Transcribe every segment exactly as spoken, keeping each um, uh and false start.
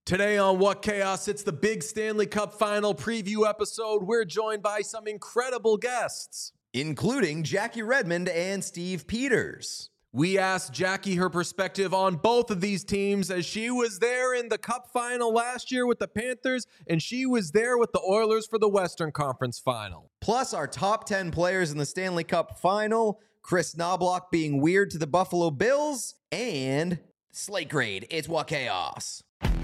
Today on What Chaos, it's the big Stanley Cup Final preview episode. We're joined by some incredible guests, including Jackie Redmond and Steve Peters. We asked Jackie her perspective on both of these teams as she was there in the Cup Final last year with the Panthers, and she was there with the Oilers for the Western Conference Final. Plus our top ten players in the Stanley Cup Final, Chris Knobloch being weird to the Buffalo Bills, and Slate Grade, it's What Chaos.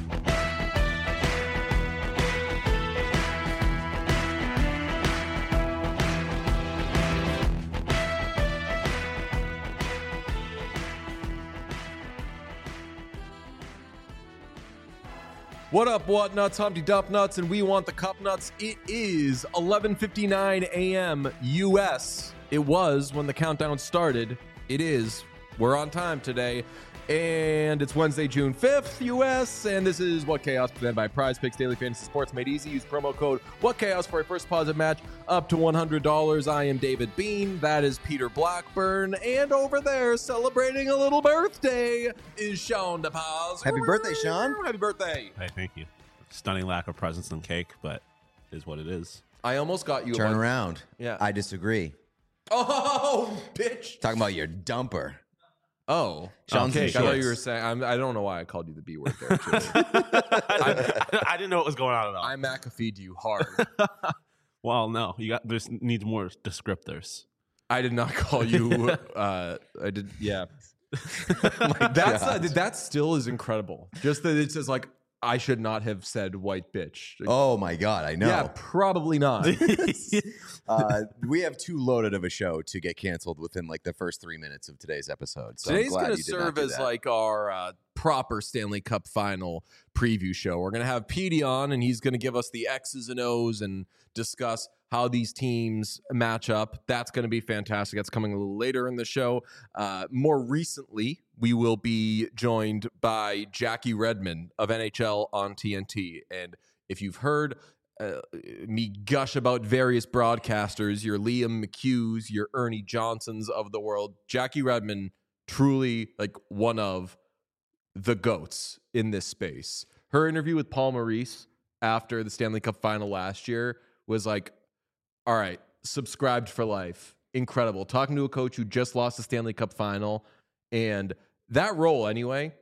What up, what nuts? Humpty Dump Nuts, and we want the Cup Nuts. It is eleven fifty-nine a.m. U S. It was when the countdown started. It is. We're on time today. And it's Wednesday, June fifth, U S, and this is What Chaos, presented by Prize Picks Daily Fantasy Sports, made easy. Use promo code What Chaos for a first deposit match up to one hundred dollars. I am David Bean. That is Peter Blackburn. And over there, celebrating a little birthday, is Sean DePaz. Happy birthday, Sean. Happy birthday. Hey, thank you. Stunning lack of presents and cake, but it is what it is. I almost got you. Turn a around. Yeah. I disagree. Oh, bitch. Talking about your dumper. Oh, Sean's okay. I in thought you shorts. were saying. I'm, I don't know why I called you the B word there. Actually. I, I didn't know what was going on at all. I McAfee'd you hard. well, no, you got. There's needs more descriptors. I did not call you. Uh, I did. Yeah. My That's uh, God. that still is incredible. Just that it says like I should not have said white bitch. Like, Oh my God, I know. yeah, probably not. uh, we have too loaded of a show to get canceled within like the first three minutes of today's episode. So I'm Today's glad going to you did not serve do as that. like our uh, proper Stanley Cup Final preview show. We're going to have Petey on, and he's going to give us the X's and O's and discuss how these teams match up. That's going to be fantastic. That's coming a little later in the show. Uh, more recently, we will be joined by Jackie Redmond of N H L on T N T. And if you've heard uh, me gush about various broadcasters, your Liam McHughes, your Ernie Johnsons of the world, Jackie Redmond, truly like one of the GOATs in this space. Her interview with Paul Maurice after the Stanley Cup Final last year was like, all right, subscribed for life. Incredible. Talking to a coach who just lost the Stanley Cup Final. And that role, anyway,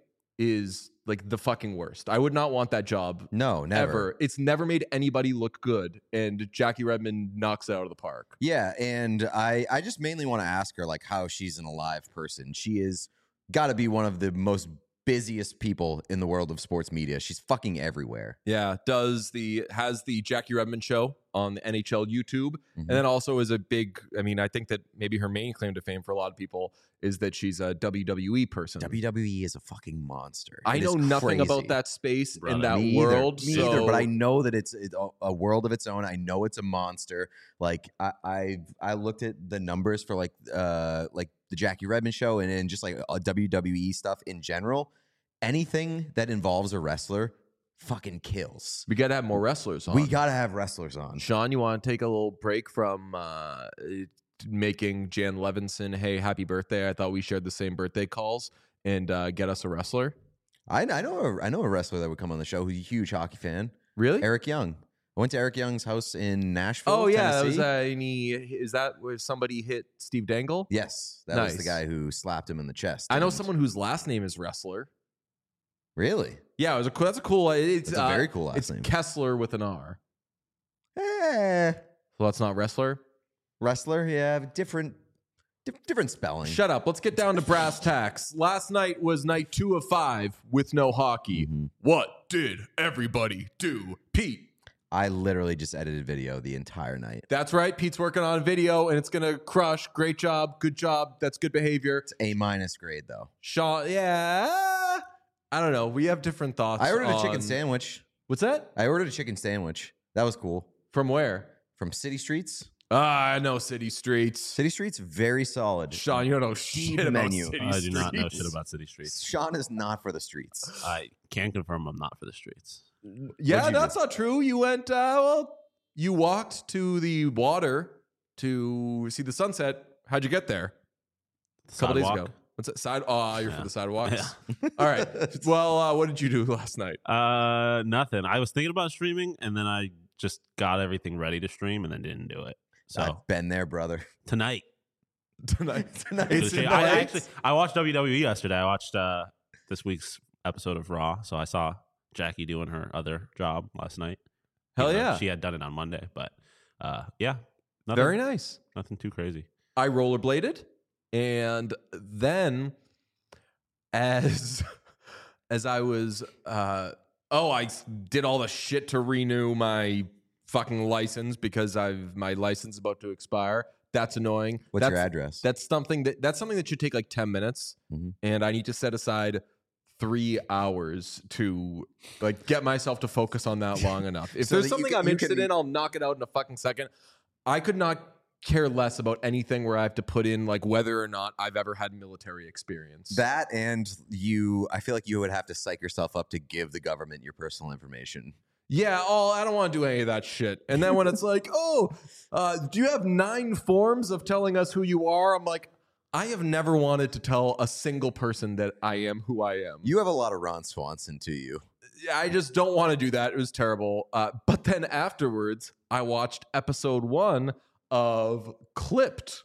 is like the fucking worst. I would not want that job. No, never. Ever. It's never made anybody look good. And Jackie Redmond knocks it out of the park. Yeah, and I, I just mainly want to ask her like how she's an alive person. She is got to be one of the most busiest people in the world of sports media. She's fucking everywhere. Yeah, does the has the Jackie Redmond show on the N H L YouTube, Mhm. and then also is a big. I mean, I think that maybe her main claim to fame for a lot of people is that she's a W W E person. W W E is a fucking monster. I It know is nothing crazy. about that space Brother, in that Me either. world. Me so either, but I know that it's, it's a- a world of its own. I know it's a monster. Like I, I, I looked at the numbers for like, uh, like the Jackie Redmond show and, and just like uh, W W E stuff in general. Anything that involves a wrestler fucking kills. we got to have more wrestlers on. We gotta have wrestlers on. Sean, you want to take a little break from uh, making Jan Levinson, hey, happy birthday? I thought we shared the same birthday calls, and uh, get us a wrestler. I, I know, a, I know a wrestler that would come on the show who's a huge hockey fan. Really? Eric Young. I went to Eric Young's house in Nashville. Oh yeah, that was Tennessee. uh, and he, is that where somebody hit Steve Dangle? Yes, that was the Nice. guy who slapped him in the chest. I know and- someone whose last name is Wrestler. Really? Yeah, it was a cool, that's a cool. It's That's a uh, very cool last it's name. Kessler with an R. Eh, So that's not Wrestler. wrestler, yeah, different, di- different spelling. Shut up. Let's get down to brass tacks. Last night was night two of five with no hockey. Mhm. What did everybody do, Pete? I literally just edited video the entire night. That's right. Pete's working on a video, and it's gonna crush. Great job. Good job. That's good behavior. It's A minus grade though. Sean, yeah. I don't know. We have different thoughts. I ordered a on- chicken sandwich. What's that? I ordered a chicken sandwich. That was cool. From where? From City Streets. Ah, I know City Streets. City Streets, very solid. Sean, you don't know Deep shit about menu. City I do not know Streets. shit about city streets. Sean is not for the streets. I can confirm I'm not for the streets. Yeah, What'd you that's not true. You went, uh, well, you walked to the water to see the sunset. How'd you get there? A couple days Sidewalk. ago. What's that? Side? Oh, you're Yeah. for the sidewalks. Yeah. All right. Well, uh, what did you do last night? Uh, nothing. I was thinking about streaming, and then I just got everything ready to stream, and then didn't do it. So I've been there, brother. tonight, Tonight. Tonight. It's I, in I the actually I watched W W E yesterday. I watched uh this week's episode of Raw, so I saw Jackie doing her other job last night. Hell Even though yeah. she had done it on Monday, but uh, yeah, nothing, Very nice. nothing too crazy. I rollerbladed, and then as as I was, uh, oh, I s- did all the shit to renew my fucking license because I've my license is about to expire. That's annoying. What's that's, your address? That's something that that's something that should take like ten minutes, Mhm. and I need to set aside three hours to like get myself to focus on that long enough. If So there's that you something can- I'm you interested can- in, I'll knock it out in a fucking second. I could not care less about anything where I have to put in like whether or not I've ever had military experience. That and you, I feel like you would have to psych yourself up to give the government your personal information. Yeah, oh, I don't want to do any of that shit. And then when it's like, oh, uh, do you have nine forms of telling us who you are? I'm like, I have never wanted to tell a single person that I am who I am. You have a lot of Ron Swanson to you. I just don't want to do that. It was terrible. Uh, but then afterwards, I watched episode one of Clipped.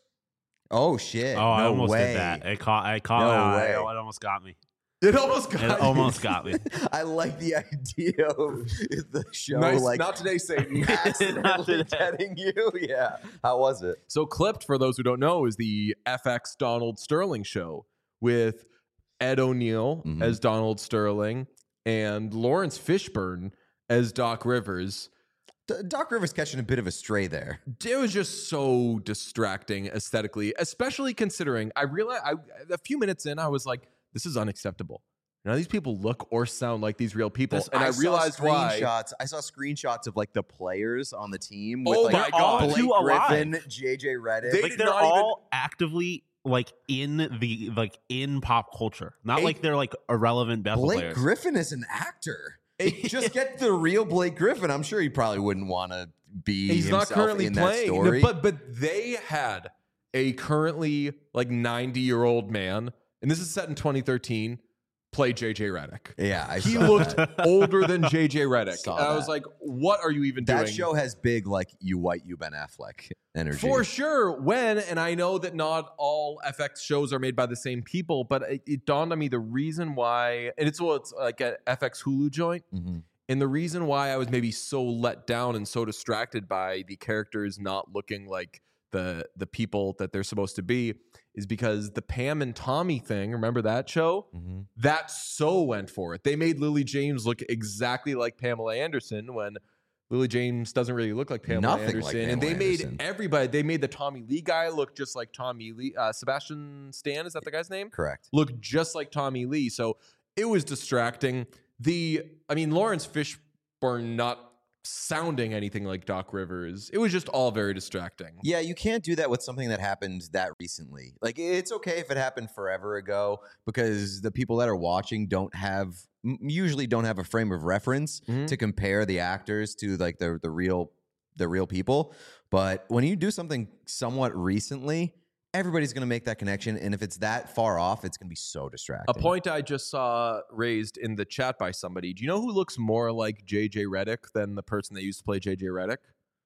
Oh shit! Oh, I no almost way. did that. It caught. I caught. No uh, way. It almost got me. It almost got It you. almost got me. I like the idea of the show Nice. like Not today, Satan. Not accidentally today. getting you. Yeah. How was it? So Clipped, for those who don't know, is the F X Donald Sterling show with Ed O'Neill Mhm. as Donald Sterling and Lawrence Fishburne as Doc Rivers. D- Doc Rivers catching a bit of a stray there. It was just so distracting aesthetically, especially considering I realized I, a few minutes in, I was like, this is unacceptable. None of these people look or sound like these real people. This- and I, saw realized why. screenshots. I saw screenshots of like the players on the team. With, Oh like, my God. Blake Too alive. Griffin, J J Redick. They Like did they're not even- all actively like in the like in pop culture, not Eight- like they're like irrelevant Bethel Blake players. Griffin is an actor. Just get the real Blake Griffin. I'm sure he probably wouldn't want to be. He's not himself currently in playing, that story. but but they had a currently like ninety year old man, and this is set in twenty thirteen. Play J J Redick. yeah, I He saw looked that. older than J J Redick. Saw And I was that. like, what are you even That doing? show has big like you white you Ben Affleck energy. For sure. When, and I know that not all F X shows are made by the same people, but it, it dawned on me the reason why, and it's well, it's like a F X Hulu joint. Mhm. And the reason why I was maybe so let down and so distracted by the characters not looking like the the people that they're supposed to be is because the Pam and Tommy thing, remember that show? Mhm. That so went for it. They made Lily James look exactly like Pamela Anderson when Lily James doesn't really look like Pamela Nothing Anderson. like and they Pamela made Anderson. everybody, they made the Tommy Lee guy look just like Tommy Lee. Uh, Sebastian Stan, is that the guy's name? Correct. Look just like Tommy Lee. So it was distracting. The, I mean, Lawrence Fishburne not sounding anything like Doc Rivers. It was just all very distracting. Yeah, you can't do that with something that happened that recently. Like it's okay if it happened forever ago because the people that are watching don't have m- usually don't have a frame of reference Mhm. to compare the actors to like the the real the real people. But when you do something somewhat recently, everybody's going to make that connection, and if it's that far off, it's going to be so distracting. A point I just saw raised in the chat by somebody. Do you know who looks more like J J Redick than the person that used to play J J Redick?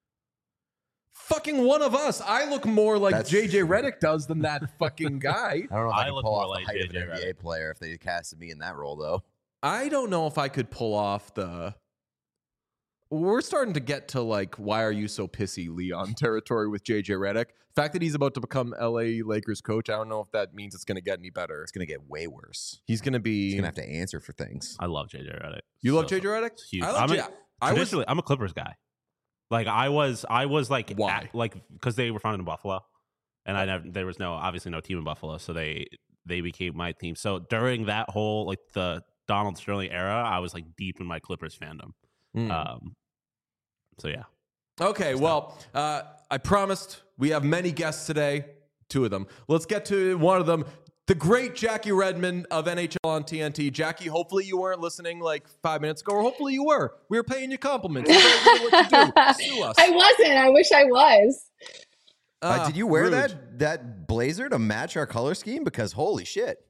Fucking one of us. I look more like That's- J J Redick does than that fucking guy. I don't know if I, I could look pull more off like the height of J J an N B A player if they casted me in that role, though. I don't know if I could pull off the. We're starting to get to like, why are you so pissy, Leon territory with J J Redick. The fact that he's about to become L A Lakers coach, I don't know if that means it's going to get any better. It's going to get way worse. He's going to be. He's going to have to answer for things. I love J J Redick. You love So- J J Redick? It's huge. I love I'm a- J- I was. Traditionally, I'm a Clippers guy. Like I was, I was like, Why? at- like because they were founded in Buffalo, and I never, there was no obviously no team in Buffalo, so they they became my team. So during that whole like the Donald Sterling era, I was like deep in my Clippers fandom. Mm. Um, so yeah, Okay, well, uh, I promised we have many guests today, two of them. Let's get to one of them, the great Jackie Redmond of N H L on T N T. Jackie, hopefully you weren't listening like five minutes ago, or hopefully you were. We were paying you compliments. You don't know what to do. Sue us. I wasn't. I wish I was. Uh, Ah, did you wear rude. that that blazer to match our color scheme? Because holy shit.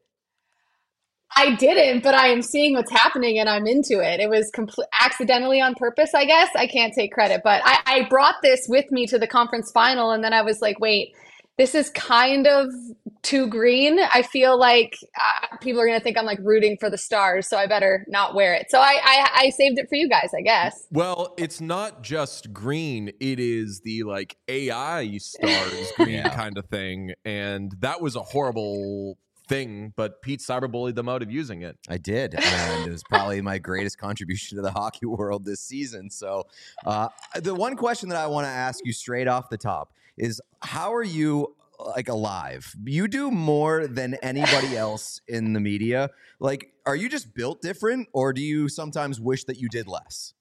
I didn't, but I am seeing what's happening and I'm into it. It was compl- accidentally on purpose, I guess. I can't take credit, but I, I brought this with me to the conference final, and then I was like, wait, this is kind of too green. I feel like uh, people are going to think I'm like rooting for the Stars, so I better not wear it. So I, I, I saved it for you guys, I guess. Well, it's not just green. It is the like A I stars green Yeah. kind of thing. And that was a horrible thing, but Pete cyberbullied them out of using it. I did, and it was probably my greatest contribution to the hockey world this season. So, uh, the one question that I want to ask you straight off the top is, how are you like alive? You do more than anybody else in the media. Like, are you just built different, or do you sometimes wish that you did less?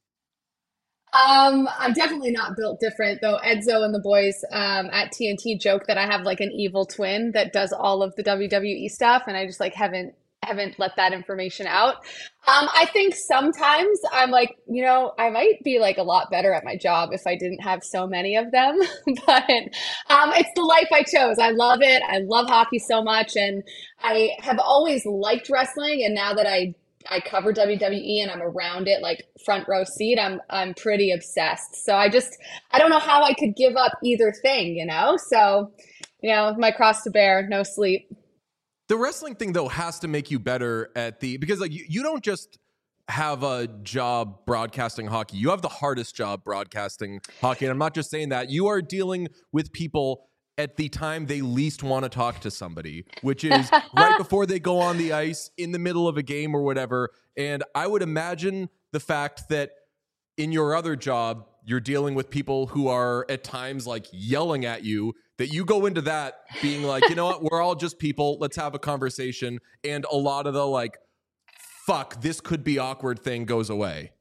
Um, I'm definitely not built different, though. Edzo and the boys um, at T N T joke that I have like an evil twin that does all of the W W E stuff, and I just like haven't haven't let that information out. Um, I think sometimes I'm like, you know, I might be like a lot better at my job if I didn't have so many of them. But um, it's the life I chose. I love it. I love hockey so much, and I have always liked wrestling. And now that I I cover W W E and I'm around it like front row seat, I'm I'm pretty obsessed. So I just I don't know how I could give up either thing, you know? So, you know, my cross to bear, no sleep. The wrestling thing, though, has to make you better at the, because like you, you don't just have a job broadcasting hockey. You have the hardest job broadcasting hockey. And I'm not just saying that. You are dealing with people at the time they least want to talk to somebody, which is right before they go on the ice, in the middle of a game or whatever. And I would imagine the fact that in your other job, you're dealing with people who are at times like yelling at you, that you go into that being like, you know what, we're all just people. Let's have a conversation. And a lot of the like, fuck, this could be awkward thing goes away.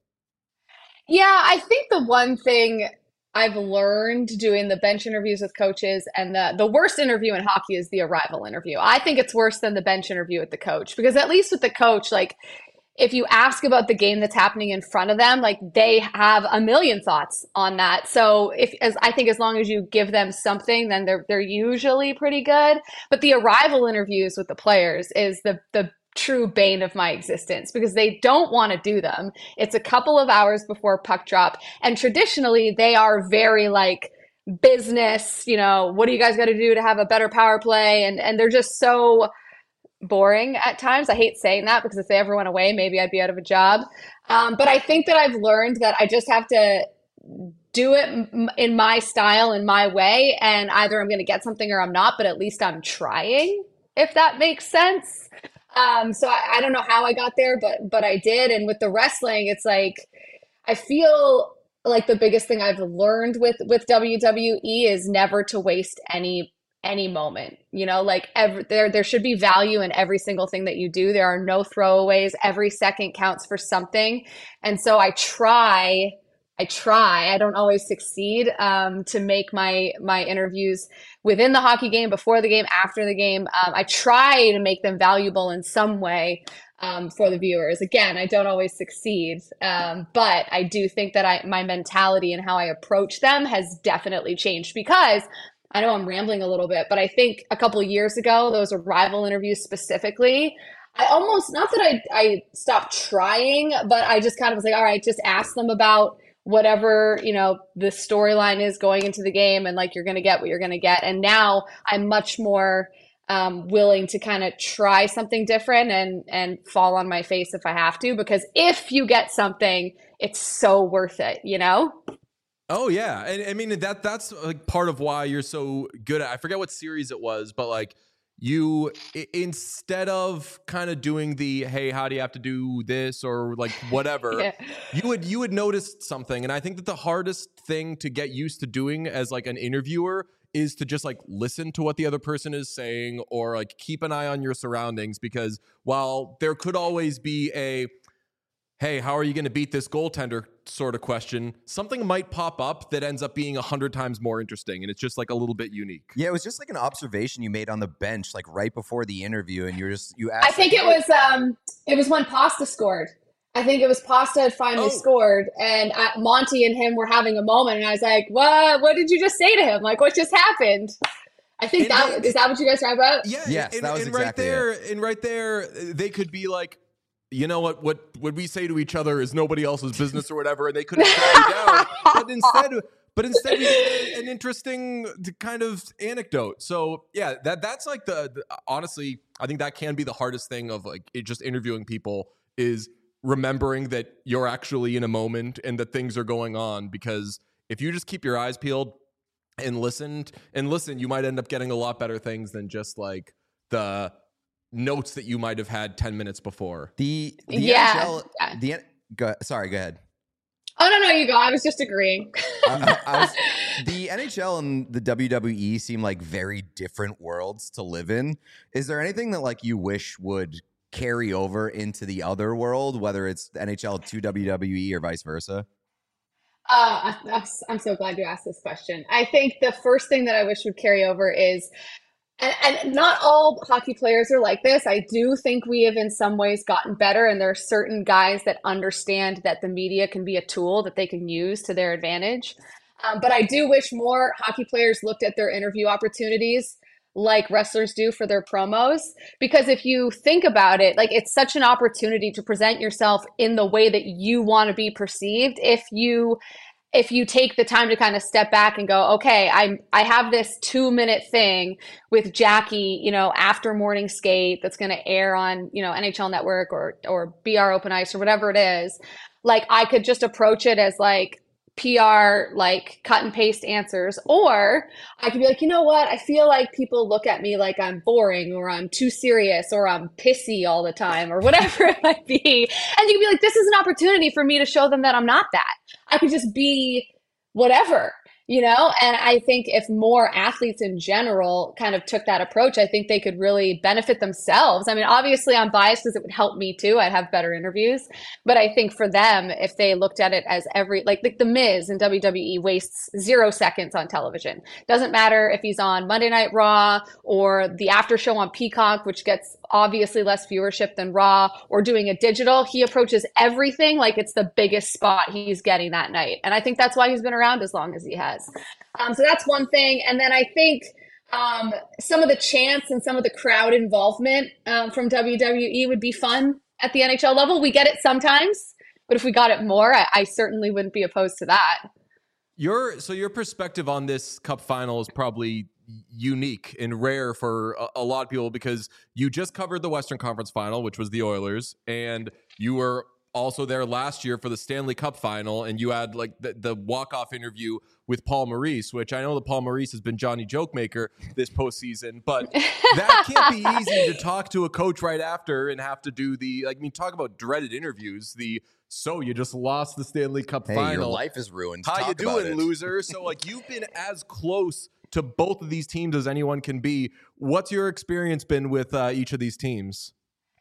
Yeah, I think the one thing I've learned doing the bench interviews with coaches, and the the worst interview in hockey is the arrival interview. I think it's worse than the bench interview with the coach, because at least with the coach, like if you ask about the game that's happening in front of them, like they have a million thoughts on that. So if as I think as long as you give them something, then they're they're usually pretty good. But the arrival interviews with the players is the the true bane of my existence, because they don't want to do them. It's a couple of hours before puck drop, and traditionally they are very like business, you know, what do you guys got to do to have a better power play, and and they're just so boring at times. I hate saying that, because if they ever went away, maybe I'd be out of a job. Um, but I think that I've learned that I just have to do it m- in my style, in my way, and either I'm going to get something or I'm not, but at least I'm trying, if that makes sense. Um, so I, I don't know how I got there, but but I did. And with the wrestling, it's like I feel like the biggest thing I've learned with with W W E is never to waste any any moment. You know, like every, there there should be value in every single thing that you do. There are no throwaways. Every second counts for something. And so I try I try, I don't always succeed, um, to make my my interviews within the hockey game, before the game, after the game. Um, I try to make them valuable in some way um, for the viewers. Again, I don't always succeed, um, but I do think that I my mentality and how I approach them has definitely changed, because I know I'm rambling a little bit, but I think a couple of years ago, those arrival interviews specifically, I almost, not that I, I stopped trying, but I just kind of was like, all right, just ask them about whatever, you know, the storyline is going into the game, and like you're going to get what you're going to get. And now I'm much more um, willing to kind of try something different and and fall on my face if I have to, because if you get something, it's so worth it, you know? Oh yeah, and I mean that that's like part of why you're so good at. I forget what series it was, but like you I- instead of kind of doing the hey, how do you have to do this or like whatever, Yeah. you would you would notice something, and I think that the hardest thing to get used to doing as like an interviewer is to just like listen to what the other person is saying, or like keep an eye on your surroundings, because while there could always be a hey, how are you going to beat this goaltender sort of question, something might pop up that ends up being a hundred times more interesting. And it's just like a little bit unique. Yeah, it was just like an observation you made on the bench, like right before the interview, and you're just you asked. I think like, it was um it was when Pasta scored. I think it was Pasta had finally Oh. scored, and I, Monty and him were having a moment, and I was like, "What? What did you just say to him? Like, what just happened?" I think And that they- is that what you guys talking about? Yeah, Yes, and, that was and right exactly there, and right there, they could be like, you know what, what what we say to each other is nobody else's business or whatever, and they could have shut you down. But instead, but instead, we get an interesting kind of anecdote. So yeah, that that's like the, the honestly, I think that can be the hardest thing of like it, just interviewing people is remembering that you're actually in a moment and that things are going on. Because if you just keep your eyes peeled and listened and listen, you might end up getting a lot better things than just like the notes that you might have had ten minutes before. The the Yeah. N H L, Yeah. the N- go, sorry, go ahead. Oh no, no, you go. I was just agreeing. I, I, I was, the N H L and the W W E seem like very different worlds to live in. Is there anything that like you wish would carry over into the other world, whether it's the N H L to W W E or vice versa? Uh, I- I'm so glad you asked this question. I think the first thing that I wish would carry over is, and, and not all hockey players are like this. I do think we have in some ways gotten better, and there are certain guys that understand that the media can be a tool that they can use to their advantage. Um, but I do wish more hockey players looked at their interview opportunities like wrestlers do for their promos. Because if you think about it, like it's such an opportunity to present yourself in the way that you want to be perceived. If you if you take the time to kind of step back and go, okay, I I have this two minute thing with Jackie, you know, after morning skate that's going to air on, you know, N H L Network or or B R Open Ice or whatever it is. Like I could just approach it as like P R, like cut and paste answers, or I could be like, you know what? I feel like people look at me like I'm boring or I'm too serious or I'm pissy all the time or whatever it might be. And you can be like, this is an opportunity for me to show them that I'm not that. I could just be whatever, you know? And I think if more athletes in general kind of took that approach, I think they could really benefit themselves. I mean, obviously I'm biased because it would help me too. I'd have better interviews. But I think for them, if they looked at it as every, like, like The Miz in W W E wastes zero seconds on television. Doesn't matter if he's on Monday Night Raw or the after show on Peacock, which gets obviously less viewership than Raw, or doing a digital, he approaches everything like it's the biggest spot he's getting that night. And I think that's why he's been around as long as he has. Um, so that's one thing. And then I think um, some of the chants and some of the crowd involvement um, from W W E would be fun at the N H L level. We get it sometimes, but if we got it more, I, I certainly wouldn't be opposed to that. Your so your perspective on this Cup final is probably unique and rare for a, a lot of people because you just covered the Western Conference final, which was the Oilers, and you were also there last year for the Stanley Cup final, and you had like the, the walk-off interview with Paul Maurice, which I know that Paul Maurice has been Johnny Jokemaker this postseason, but that can't be easy to talk to a coach right after and have to do the, like, I mean, talk about dreaded interviews, the, so you just lost the Stanley Cup Hey, final. your life is ruined. How Talk you about doing, it. loser? So, like, you've been as close to both of these teams as anyone can be. What's your experience been with uh, each of these teams?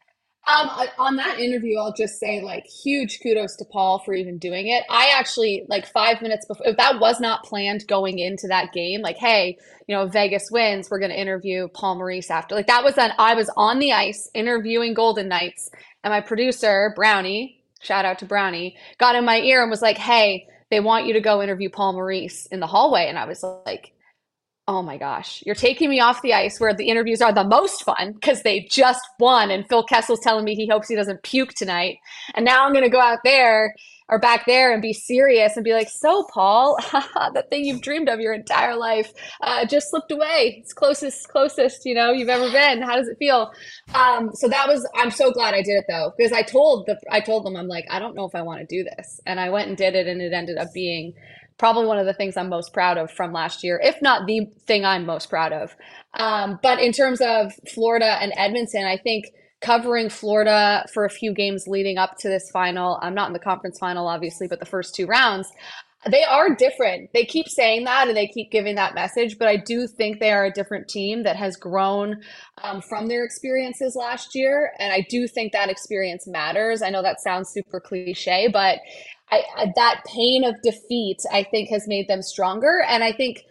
Um, on that interview, I'll just say like huge kudos to Paul for even doing it. I actually like five minutes before, if that was not planned going into that game, like, hey, you know, Vegas wins, we're going to interview Paul Maurice after. Like that was an, I was on the ice interviewing Golden Knights, and my producer, Brownie, shout out to Brownie, got in my ear and was like, hey, they want you to go interview Paul Maurice in the hallway. And I was like, oh my gosh, you're taking me off the ice where the interviews are the most fun because they just won. And Phil Kessel's telling me he hopes he doesn't puke tonight. And now I'm going to go out there or back there and be serious and be like, so Paul, that thing you've dreamed of your entire life uh, just slipped away. It's closest, closest, you know, you've ever been. How does it feel? Um, so that was, I'm so glad I did it though, because I told the, I told them, I'm like, I don't know if I want to do this. And I went and did it, and it ended up being probably one of the things I'm most proud of from last year, if not the thing I'm most proud of. Um, but in terms of Florida and Edmonton, I think covering Florida for a few games leading up to this final, I'm not in the conference final, obviously, but the first two rounds, they are different. They keep saying that and they keep giving that message, but I do think they are a different team that has grown um, from their experiences last year. And I do think that experience matters. I know that sounds super cliche, but I, I, that pain of defeat, I think, has made them stronger. And I think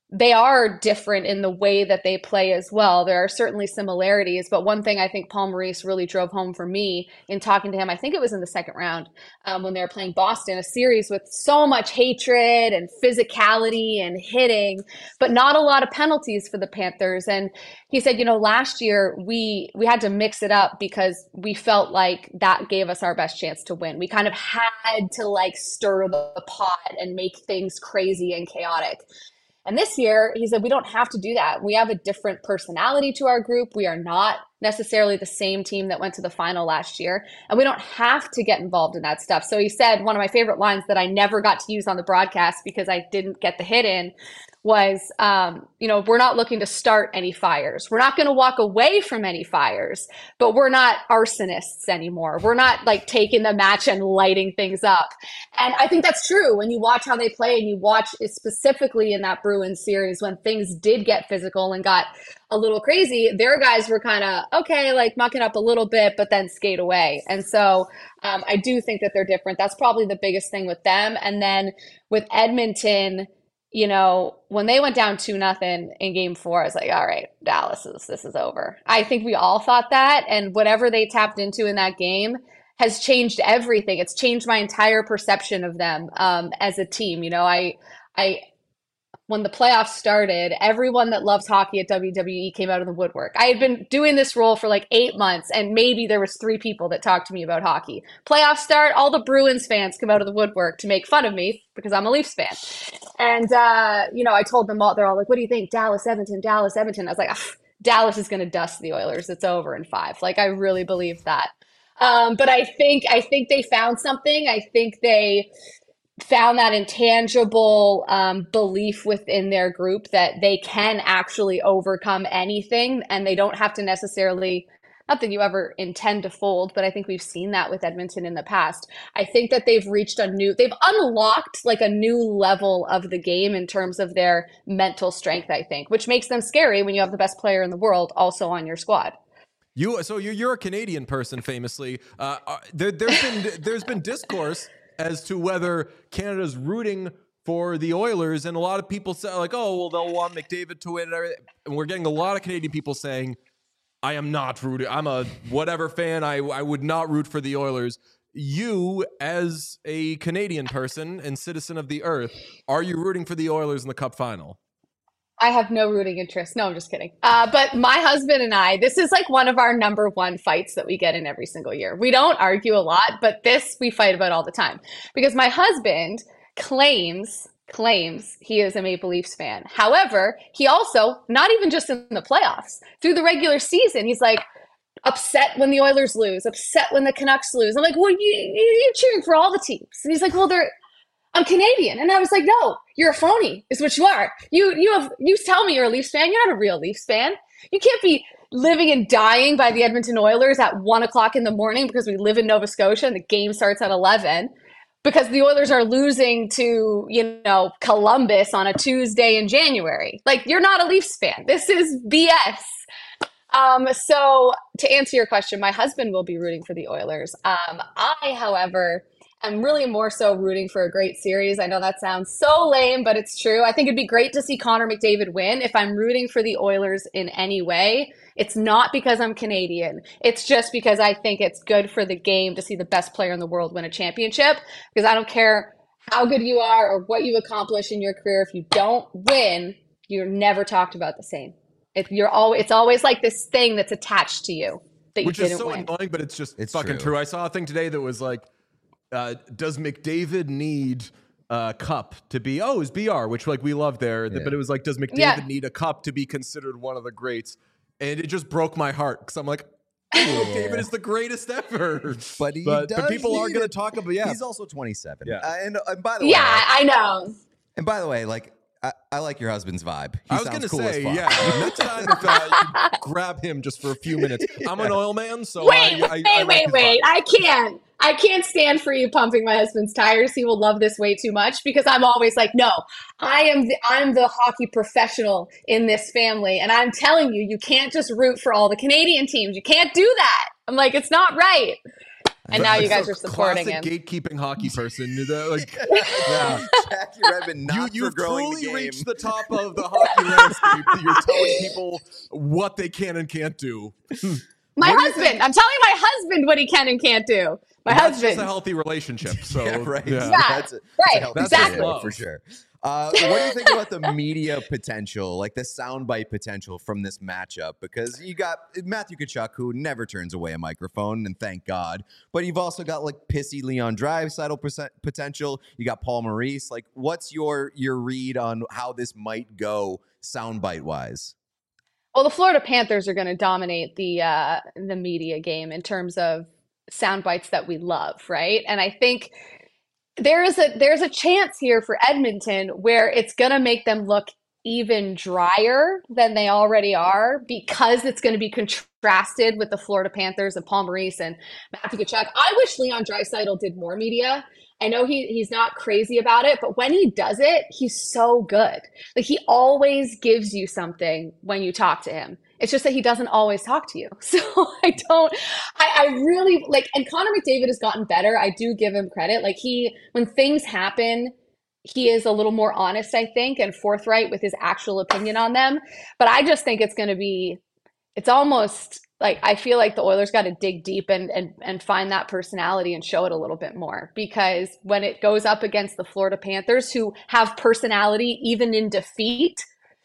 they are different in the way that they play as well. There are certainly similarities, but one thing I think Paul Maurice really drove home for me in talking to him, I think it was in the second round um, when they were playing Boston, a series with so much hatred and physicality and hitting, but not a lot of penalties for the Panthers. And he said, you know, last year we we had to mix it up because we felt like that gave us our best chance to win. We kind of had to like stir the pot and make things crazy and chaotic. And this year, he said, we don't have to do that. We have a different personality to our group. We are not necessarily the same team that went to the final last year, and we don't have to get involved in that stuff. So he said, one of my favorite lines that I never got to use on the broadcast because I didn't get the hit in was, um, you know, we're not looking to start any fires. We're not going to walk away from any fires, but we're not arsonists anymore. We're not like taking the match and lighting things up. And I think that's true when you watch how they play and you watch specifically in that Bruins series when things did get physical and got a little crazy, their guys were kind of, okay, like mucking up a little bit, but then skate away. And so um, I do think that they're different. That's probably the biggest thing with them. And then with Edmonton, you know, when they went down two nothing in game four, I was like, all right, Dallas is, this is over. I think we all thought that. And whatever they tapped into in that game has changed everything. It's changed my entire perception of them um, as a team. You know, I, I, when the playoffs started, everyone that loves hockey at W W E came out of the woodwork. I had been doing this role for like eight months, and maybe there was three people that talked to me about hockey. Playoffs start, all the Bruins fans come out of the woodwork to make fun of me because I'm a Leafs fan. And, uh, you know, I told them all, they're all like, what do you think? Dallas, Edmonton, Dallas, Edmonton. I was like, ah, Dallas is going to dust the Oilers. It's over in five. Like, I really believe that. Um, but I think, I think they found something. I think they found that intangible um, belief within their group that they can actually overcome anything, and they don't have to necessarily, not that you ever intend to fold, but I think we've seen that with Edmonton in the past. I think that they've reached a new, they've unlocked like a new level of the game in terms of their mental strength, I think, which makes them scary when you have the best player in the world also on your squad. You, so you're, you're a Canadian person, famously. Uh, there, there's been there's been discourse as to whether Canada's rooting for the Oilers, and a lot of people say like, oh, well, they'll want McDavid to win, and everything. And we're getting a lot of Canadian people saying, I am not rooting. I'm a whatever fan. I I would not root for the Oilers. You, as a Canadian person and citizen of the earth, are you rooting for the Oilers in the Cup final? I have no rooting interest. No, I'm just kidding. Uh, but my husband and I, this is like one of our number one fights that we get in every single year. We don't argue a lot, but this we fight about all the time because my husband claims, claims he is a Maple Leafs fan. However, he also, not even just in the playoffs, through the regular season, he's like upset when the Oilers lose, upset when the Canucks lose. I'm like, well, you, you're cheering for all the teams. And he's like, well, they're, I'm Canadian. And I was like, no, you're a phony is what you are. You you have you tell me you're a Leafs fan. You're not a real Leafs fan. You can't be living and dying by the Edmonton Oilers at one o'clock in the morning because we live in Nova Scotia and the game starts at eleven because the Oilers are losing to, you know, Columbus on a Tuesday in January. Like, you're not a Leafs fan. This is B S. Um, so to answer your question, my husband will be rooting for the Oilers. Um, I, however, I'm really more so rooting for a great series. I know that sounds so lame, but it's true. I think it'd be great to see Connor McDavid win. If I'm rooting for the Oilers in any way, it's not because I'm Canadian. It's just because I think it's good for the game to see the best player in the world win a championship. Because I don't care how good you are or what you've accomplished in your career. If you don't win, you're never talked about the same. If you're always, it's always like this thing that's attached to you that you Which didn't is so win. annoying, but it's just It's fucking true. true. I saw a thing today that was like, Uh, does McDavid need a cup to be, oh, it's B R, which like we love there, Yeah. but it was like, does McDavid Yeah. need a cup to be considered one of the greats? And it just broke my heart because I'm like, McDavid is the greatest ever. But he but, does but people are need going to it. talk about, yeah. He's also twenty-seven. Yeah. Uh, and, and by the way, Yeah, I know. and by the way, like I, I like your husband's vibe. He I was sounds going to cool say, as fuck. yeah, next time if uh, you could grab him just for a few minutes. I'm an oil man, so Wait, I, I, wait, I like wait, his wait. vibe. I can't. I can't stand for you pumping my husband's tires. He will love this way too much because I'm always like, no, I am the I'm the hockey professional in this family. And I'm telling you, you can't just root for all the Canadian teams. You can't do that. I'm like, it's not right. and now you guys So are supporting classic him. gatekeeping hockey person. The, like, Yeah, Jackie Redmond not you, for you've growing truly the game. reached the top of the hockey landscape. That you're telling people what they can and can't do. My What do you husband. think- I'm telling my husband what he can and can't do. My That's husband. just a healthy relationship. So Yeah, right. yeah. Yeah, That's a, that's a right, healthy That's exactly. dynamic for sure. Uh, what do you think about the media potential, like the soundbite potential from this matchup? Because you got Matthew Tkachuk, who never turns away a microphone, and thank God. But you've also got like pissy Leon Draisaitl percent potential. You got Paul Maurice. Like, what's your your read on how this might go soundbite wise? Well, the Florida Panthers are going to dominate the uh, the media game in terms of sound bites that we love, right? And I think there is a there's a chance here for Edmonton where it's going to make them look even drier than they already are because it's going to be contrasted with the Florida Panthers and Paul Maurice and Matthew Tkachuk. I wish Leon Draisaitl did more media. I know he he's not crazy about it, but when he does it, he's so good. Like he always gives you something when you talk to him. It's just that he doesn't always talk to you. So I don't, I, I really like, and Connor McDavid has gotten better. I do give him credit. Like he, when things happen, he is a little more honest, I think, and forthright with his actual opinion on them. But I just think it's going to be, it's almost like I feel like the Oilers got to dig deep and, and and find that personality and show it a little bit more, because when it goes up against the Florida Panthers, who have personality even in defeat,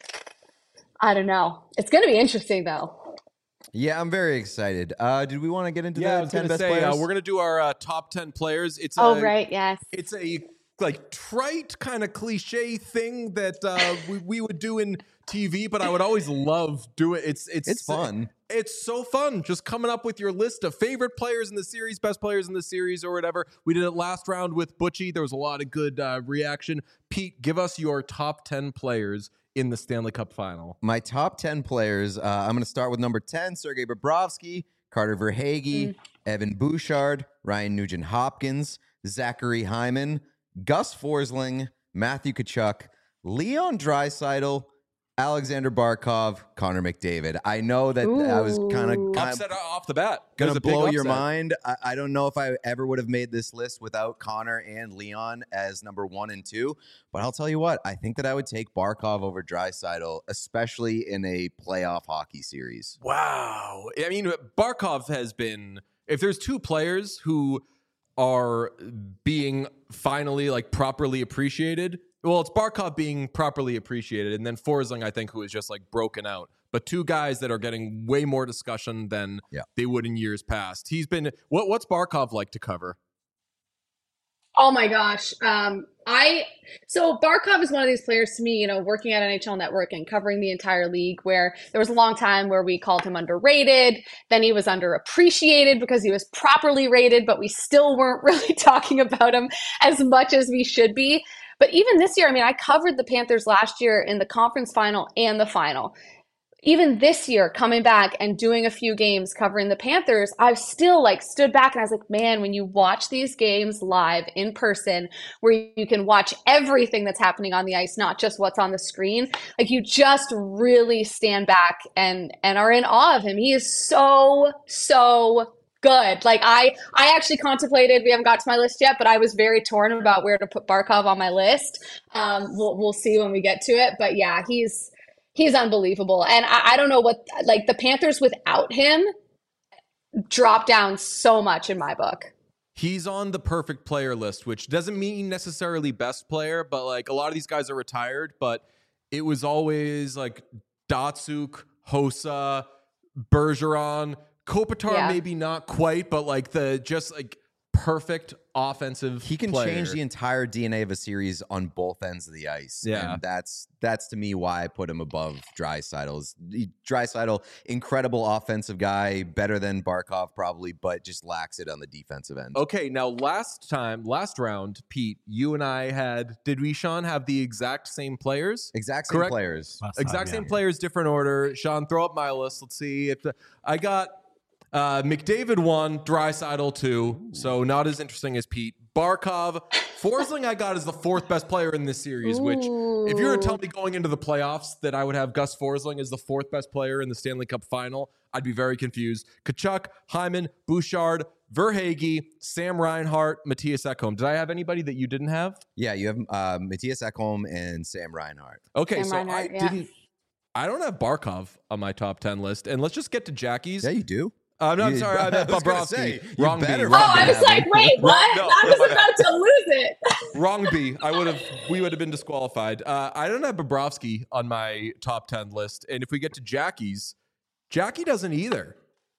I don't know. It's going to be interesting though. Yeah, I'm very excited. Uh, did we want to get into Yeah, I the was ten gonna best say players? uh, we're gonna do our uh, top ten players. It's Oh, a, right. Yes. It's a like trite kind of cliche thing that uh, we we would do in T V, but I would always love do it. It's it's It's fun. It's so fun just coming up with your list of favorite players in the series, best players in the series, or whatever. We did it last round with Butchie. There was a lot of good uh, reaction. Pete, give us your top ten players in the Stanley Cup final. My top ten players, uh, I'm going to start with number ten, Sergei Bobrovsky, Carter Verhaeghe, Mm. Evan Bouchard, Ryan Nugent-Hopkins, Zachary Hyman, Gus Forsling, Matthew Tkachuk, Leon Draisaitl, Alexander Barkov, Connor McDavid. I know that I was kind of Ooh. Upset off the bat. gonna There's a big blow your upset. mind. I, I don't know if I ever would have made this list without Connor and Leon as number one and two. But I'll tell you what, I think that I would take Barkov over Draisaitl, especially in a playoff hockey series. Wow. I mean, Barkov has been, if there's two players who are being finally like properly appreciated, well, it's Barkov being properly appreciated, and then Forsling, I think, who is just like broken out. But two guys that are getting way more discussion than Yeah. they would in years past. He's been, what what's Barkov like to cover? Oh my gosh. Um, I so Barkov is one of these players to me, you know, working at N H L Network and covering the entire league, where there was a long time where we called him underrated. Then he was underappreciated because he was properly rated, but we still weren't really talking about him as much as we should be. But even this year, I mean, I covered the Panthers last year in the conference final and the final. Even this year, coming back and doing a few games covering the Panthers, I've still like stood back and I was like, man, when you watch these games live in person, where you can watch everything that's happening on the ice, not just what's on the screen, like you just really stand back and and are in awe of him. He is so, so good. Like I I actually contemplated, we haven't got to my list yet, but I was very torn about where to put Barkov on my list. Um, we'll we'll see when we get to it. But yeah, he's He's unbelievable. And I, I don't know what, like the Panthers without him drop down so much in my book. He's on the perfect player list, which doesn't mean necessarily best player, but like a lot of these guys are retired, but it was always like Datsuk, Hossa, Bergeron, Kopitar, Yeah. maybe not quite, but like the just like perfect offensive He can player. change the entire D N A of a series on both ends of the ice. Yeah. And that's that's to me why I put him above Draisaitl. Draisaitl, incredible offensive guy, better than Barkov probably, but just lacks it on the defensive end. Okay, now last time, last round, Pete, you and I had, did we, Sean, have the exact same players? Exact same Correct. players. Last Exact time, same yeah. players, different order. Sean, throw up my list. Let's see if the, I got uh, McDavid one, Draisaitl two, so not as interesting as Pete. Barkov, Forsling, I got as the fourth best player in this series. Which, if you were to tell me going into the playoffs that I would have Gus Forsling as the fourth best player in the Stanley Cup final, I'd be very confused. Tkachuk, Hyman, Bouchard, Verhaeghe, Sam Reinhart, Matthias Ekholm. Did I have anybody that you didn't have? Yeah, you have uh, Matthias Ekholm and Sam Reinhart. Okay, Sam so Reinhart, I yeah. didn't. I don't have Barkov on my top ten list, and let's just get to Jackie's. Yeah, you do. Uh, no, I'm You- sorry, I meant I was gonna Bobrovsky. say, you Wrong B. better Wrong Oh, B. I was like, wait, what? no, I no, was my bad. about to lose it. Wrong B. I would have. We would have been disqualified. Uh, I don't have Bobrovsky on my top ten list, and if we get to Jackie's, Jackie doesn't either.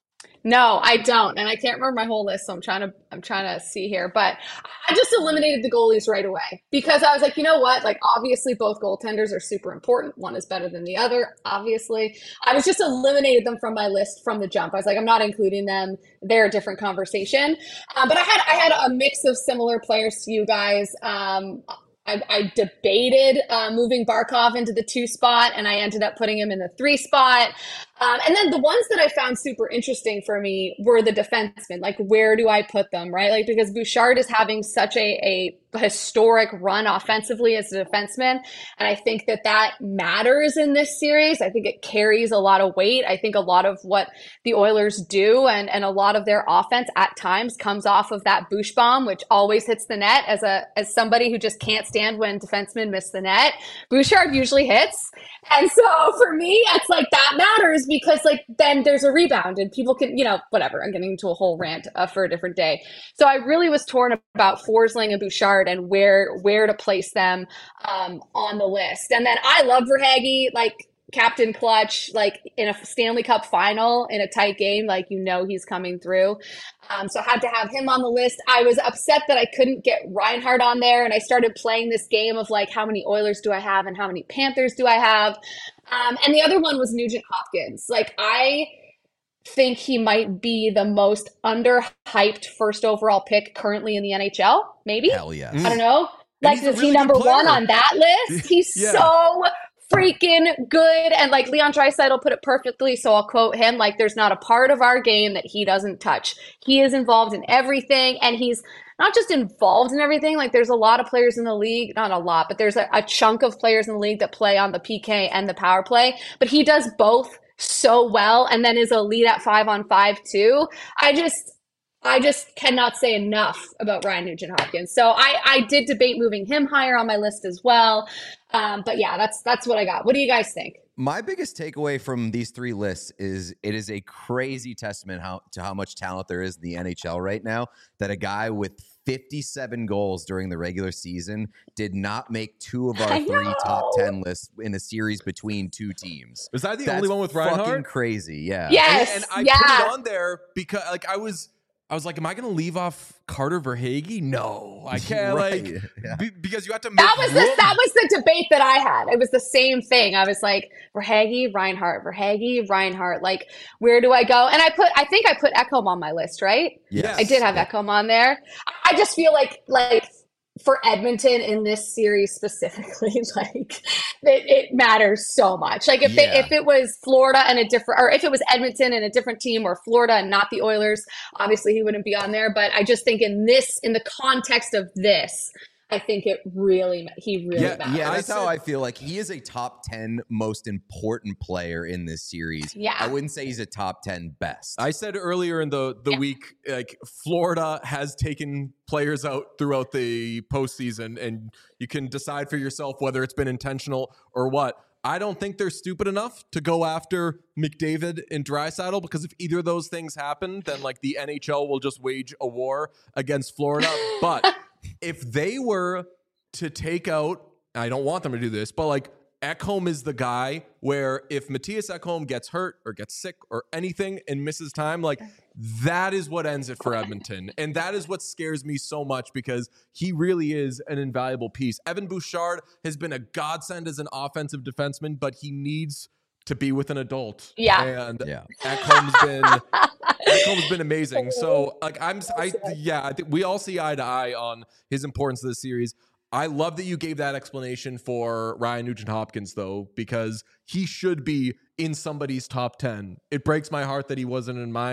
No, I don't, and I can't remember my whole list, so I'm trying to I'm trying to see here. But I just eliminated the goalies right away because I was like, you know what? Like, obviously, both goaltenders are super important. One is better than the other, obviously. I was just eliminated them from my list from the jump. I was like, I'm not including them. They're a different conversation. Um, but I had I had a mix of similar players to you guys. Um, I, I debated uh, moving Barkov into the two spot, and I ended up putting him in the three spot. Um, and then the ones that I found super interesting for me were the defensemen. Like, where do I put them, right? Like, because Bouchard is having such a, a historic run offensively as a defenseman. And I think that that matters in this series. I think it carries a lot of weight. I think a lot of what the Oilers do and, and a lot of their offense at times comes off of that Bouch bomb, which always hits the net. As a as somebody who just can't stand when defensemen miss the net, Bouchard usually hits. And so for me, it's like that matters because like then there's a rebound and people can, you know, whatever. I'm getting into a whole rant uh, for a different day. So I really was torn about Forsling and Bouchard and where where to place them um, on the list. And then I love Verhaeghe, like Captain Clutch, like in a Stanley Cup final in a tight game, like you know he's coming through. Um, so I had to have him on the list. I was upset that I couldn't get Reinhart on there, and I started playing this game of like how many Oilers do I have and how many Panthers do I have. Um, and the other one was Nugent Hopkins. Like I think he might be the most underhyped first overall pick currently in the N H L. Maybe. Hell yes. Mm. I don't know. Like, he's a is really he good number one player. on that list? He's Yeah. so freaking good. And like Leon Draisaitl put it perfectly, so I'll quote him, like, there's not a part of our game that he doesn't touch. He is involved in everything, and he's not just involved in everything. Like, there's a lot of players in the league, not a lot, but there's a, a chunk of players in the league that play on the P K and the power play, but he does both so well and then is a lead at five on five too. I just I just cannot say enough about Ryan Nugent-Hopkins. So I, I did debate moving him higher on my list as well. Um, but yeah, that's that's what I got. What do you guys think? My biggest takeaway from these three lists is it is a crazy testament how, to how much talent there is in the N H L right now that a guy with fifty-seven goals during the regular season did not make two of our I three know. top ten lists in a series between two teams. Was I the That's only one with fucking Reinhart? crazy, yeah. Yes, And, and I yeah. put it on there because like I was I was like, am I going to leave off Carter Verhaeghe? No, I can't. Right, Like yeah. be, because you have to make That was the room. that was the debate that I had. It was the same thing. I was like, Verhaeghe, Reinhart, Verhaeghe, Reinhart. Like, where do I go? And I put, I think I put Ekholm on my list, right? Yes. I did have Ekholm on there. I just feel like, like for Edmonton in this series specifically, like it, it matters so much. Like if Yeah. they, if it was Florida and a different, or if it was Edmonton and a different team, or Florida and not the Oilers, obviously he wouldn't be on there. But I just think in this, in the context of this, I think it really, he really Yeah, matters. Yeah, I that's how said- I feel. Like he is a top ten most important player in this series. Yeah. I wouldn't say he's a top ten best. I said earlier in the the Yeah. week, like Florida has taken players out throughout the postseason, and you can decide for yourself whether it's been intentional or what. I don't think they're stupid enough to go after McDavid and Draisaitl, because if either of those things happen, then like the N H L will just wage a war against Florida. But if they were to take out, I don't want them to do this, but like Ekholm is the guy where if Matthias Ekholm gets hurt or gets sick or anything and misses time, like that is what ends it for Edmonton. And that is what scares me so much because he really is an invaluable piece. Evan Bouchard has been a godsend as an offensive defenseman, but he needs to be with an adult. Yeah. And yeah. Ekholm's been Ekholm's been amazing. So like I'm I yeah, I think we all see eye to eye on his importance to the series. I love that you gave that explanation for Ryan Nugent-Hopkins, though, because he should be in somebody's top ten. It breaks my heart that he wasn't in mine.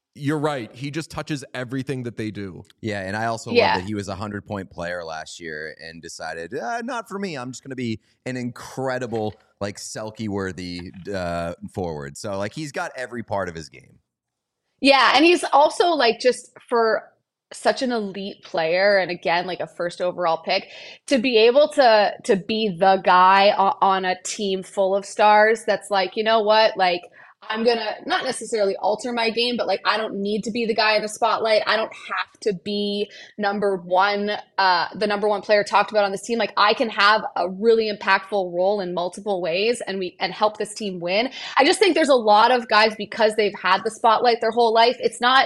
you're right. He just touches everything that they do. Yeah, and I also Yeah. love that he was a hundred-point player last year and decided, uh, not for me. I'm just going to be an incredible, like, Selke-worthy uh, forward. So, like, he's got every part of his game. Yeah, and he's also like just for such an elite player, and again, like a first overall pick, to be able to to be the guy on, on a team full of stars that's like, you know what, like I'm gonna not necessarily alter my game, but like I don't need to be the guy in the spotlight. I don't have to be number one, uh, the number one player talked about on this team. Like I can have a really impactful role in multiple ways and we and help this team win. I just think there's a lot of guys because they've had the spotlight their whole life. It's not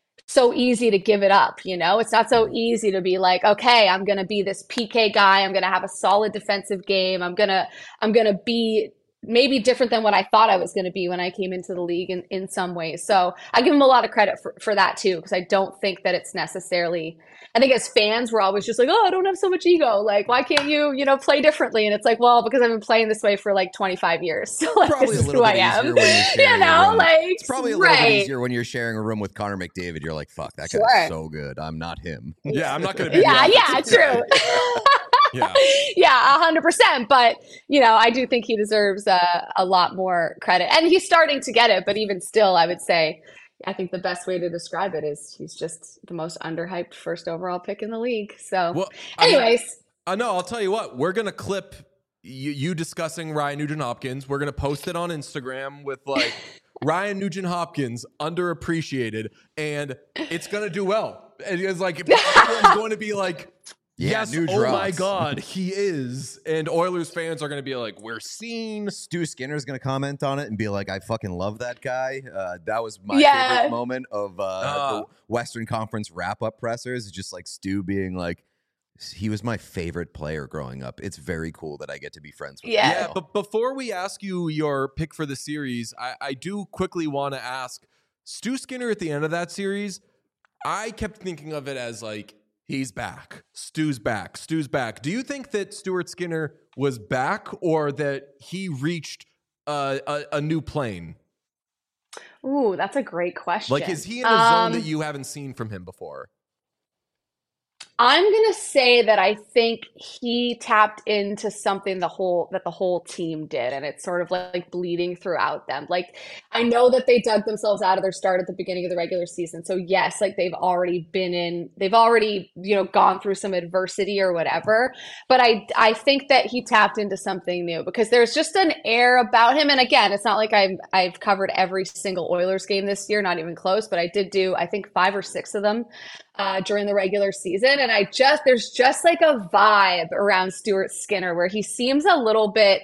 so easy to give it up, you know? It's not so easy to be like, okay, I'm going to be this P K guy. I'm going to have a solid defensive game. I'm going to I'm going to be maybe different than what I thought I was going to be when I came into the league in, in some ways. So I give him a lot of credit for, for that too, because I don't think that it's necessarily, I think as fans, we're always just like, oh, I don't have so much ego. Like, why can't you, you know, play differently? And it's like, well, because I've been playing this way for like twenty-five years. So like, Probably this a is little who bit I am. easier when you're sharing You a know, room. like, It's probably a little right. bit easier when you're sharing a room with Connor McDavid. You're like, fuck, that guy's Sure. so good. I'm not him. Yeah, I'm not going to be. Yeah, the yeah, offensive guy. true. Yeah. Yeah, a hundred percent. But you know, I do think he deserves uh, a lot more credit, and he's starting to get it. But even still, I would say, I think the best way to describe it is he's just the most underhyped first overall pick in the league. So, Well, I mean, anyways, I know. I'll tell you what. We're gonna clip you, you discussing Ryan Nugent Hopkins. We're gonna post it on Instagram with like Ryan Nugent Hopkins underappreciated, and it's gonna do well. And it's like everyone's going to be like, Yeah, yes, Nuge oh my rocks. God, he is. And Oilers fans are going to be like, we're seen. Stu Skinner's going to comment on it and be like, I fucking love that guy. Uh, that was my Yeah. favorite moment of uh, Uh. the Western Conference wrap-up pressers. Just like Stu being like, he was my favorite player growing up. It's very cool that I get to be friends with Yeah. him. Yeah, but before we ask you your pick for the series, I, I do quickly want to ask Stu Skinner at the end of that series. I kept thinking of it as like, he's back. Stu's back. Stu's back. Do you think that Stuart Skinner was back or that he reached uh, a, a new plane? ooh, that's a great question. Like, is he in a Um, zone that you haven't seen from him before? I'm gonna say that I think he tapped into something the whole that the whole team did, and it's sort of like bleeding throughout them. Like I know that they dug themselves out of their start at the beginning of the regular season. So yes, like they've already been in, they've already, you know, gone through some adversity or whatever. But I I think that he tapped into something new because there's just an air about him. And again, it's not like I've I've covered every single Oilers game this year, not even close, but I did do I think five or six of them uh, during the regular season. And I just, there's just like a vibe around Stuart Skinner where he seems a little bit,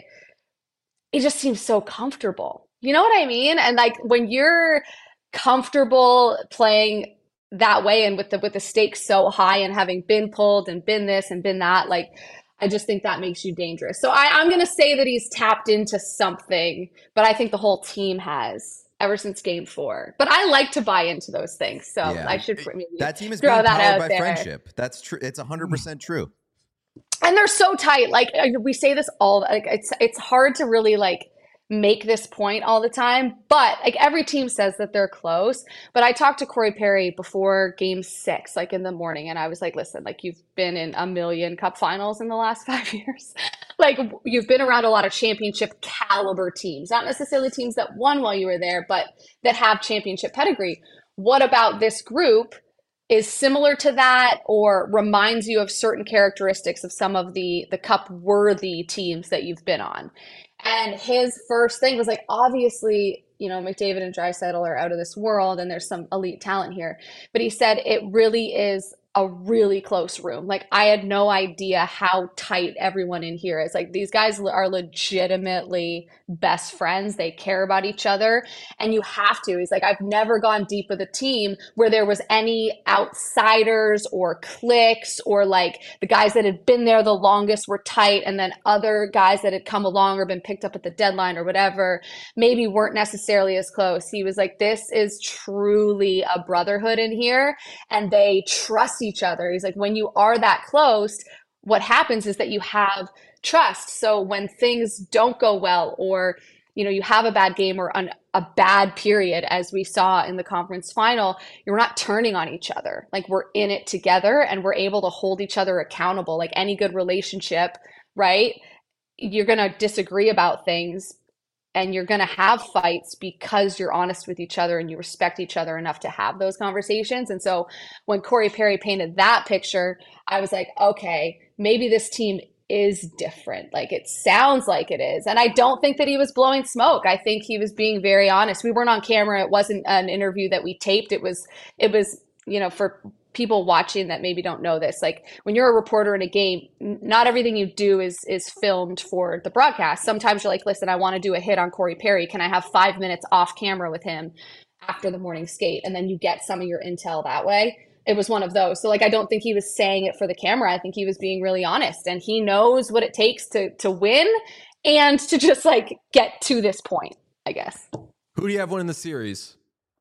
he just seems so comfortable. You know what I mean? And like when you're comfortable playing that way and with the, with the stakes so high and having been pulled and been this and been that, like, I just think that makes you dangerous. So I, I'm going to say that he's tapped into something, but I think the whole team has ever since game four. But I like to buy into those things. So Yeah. I should maybe That team is throw being that powered out by there. friendship. That's true. It's one hundred percent true. And they're so tight. Like uh, we say this all, like it's it's hard to really like make this point all the time, but like every team says that they're close. But I talked to Corey Perry before game six, like in the morning, and I was like, listen, like you've been in a million cup finals in the last five years. Like you've been around a lot of championship caliber teams, not necessarily teams that won while you were there, but that have championship pedigree. What about this group is similar to that or reminds you of certain characteristics of some of the the cup worthy teams that you've been on? And his first thing was like, obviously, you know, McDavid and Draisaitl are out of this world and there's some elite talent here. But he said it really is a really close room. Like I had no idea how tight everyone in here is. Like these guys are legitimately best friends. They care about each other and you have to. He's like, I've never gone deep with a team where there was any outsiders or cliques or like the guys that had been there the longest were tight and then other guys that had come along or been picked up at the deadline or whatever maybe weren't necessarily as close. He was like, this is truly a brotherhood in here and they trust each other. He's like, when you are that close, what happens is that you have trust. So when things don't go well or you know, you have a bad game or an, a bad period, as we saw in the conference final, you're not turning on each other. Like, we're in it together and we're able to hold each other accountable. Like any good relationship, right? You're going to disagree about things and you're going to have fights because you're honest with each other and you respect each other enough to have those conversations. And so when Corey Perry painted that picture, I was like, okay, maybe this team is different. Like, it sounds like it is. And I don't think that he was blowing smoke. I think he was being very honest. We weren't on camera. It wasn't an interview that we taped. It was, it was, you know, for people watching that maybe don't know this, like when you're a reporter in a game, not everything you do is is filmed for the broadcast. Sometimes you're like, listen, I want to do a hit on Corey Perry. Can I have five minutes off camera with him after the morning skate? And then you get some of your intel that way. It was one of those. So like, I don't think he was saying it for the camera. I think he was being really honest, and he knows what it takes to to win and to just like get to this point, I guess. Who do you have winning the series?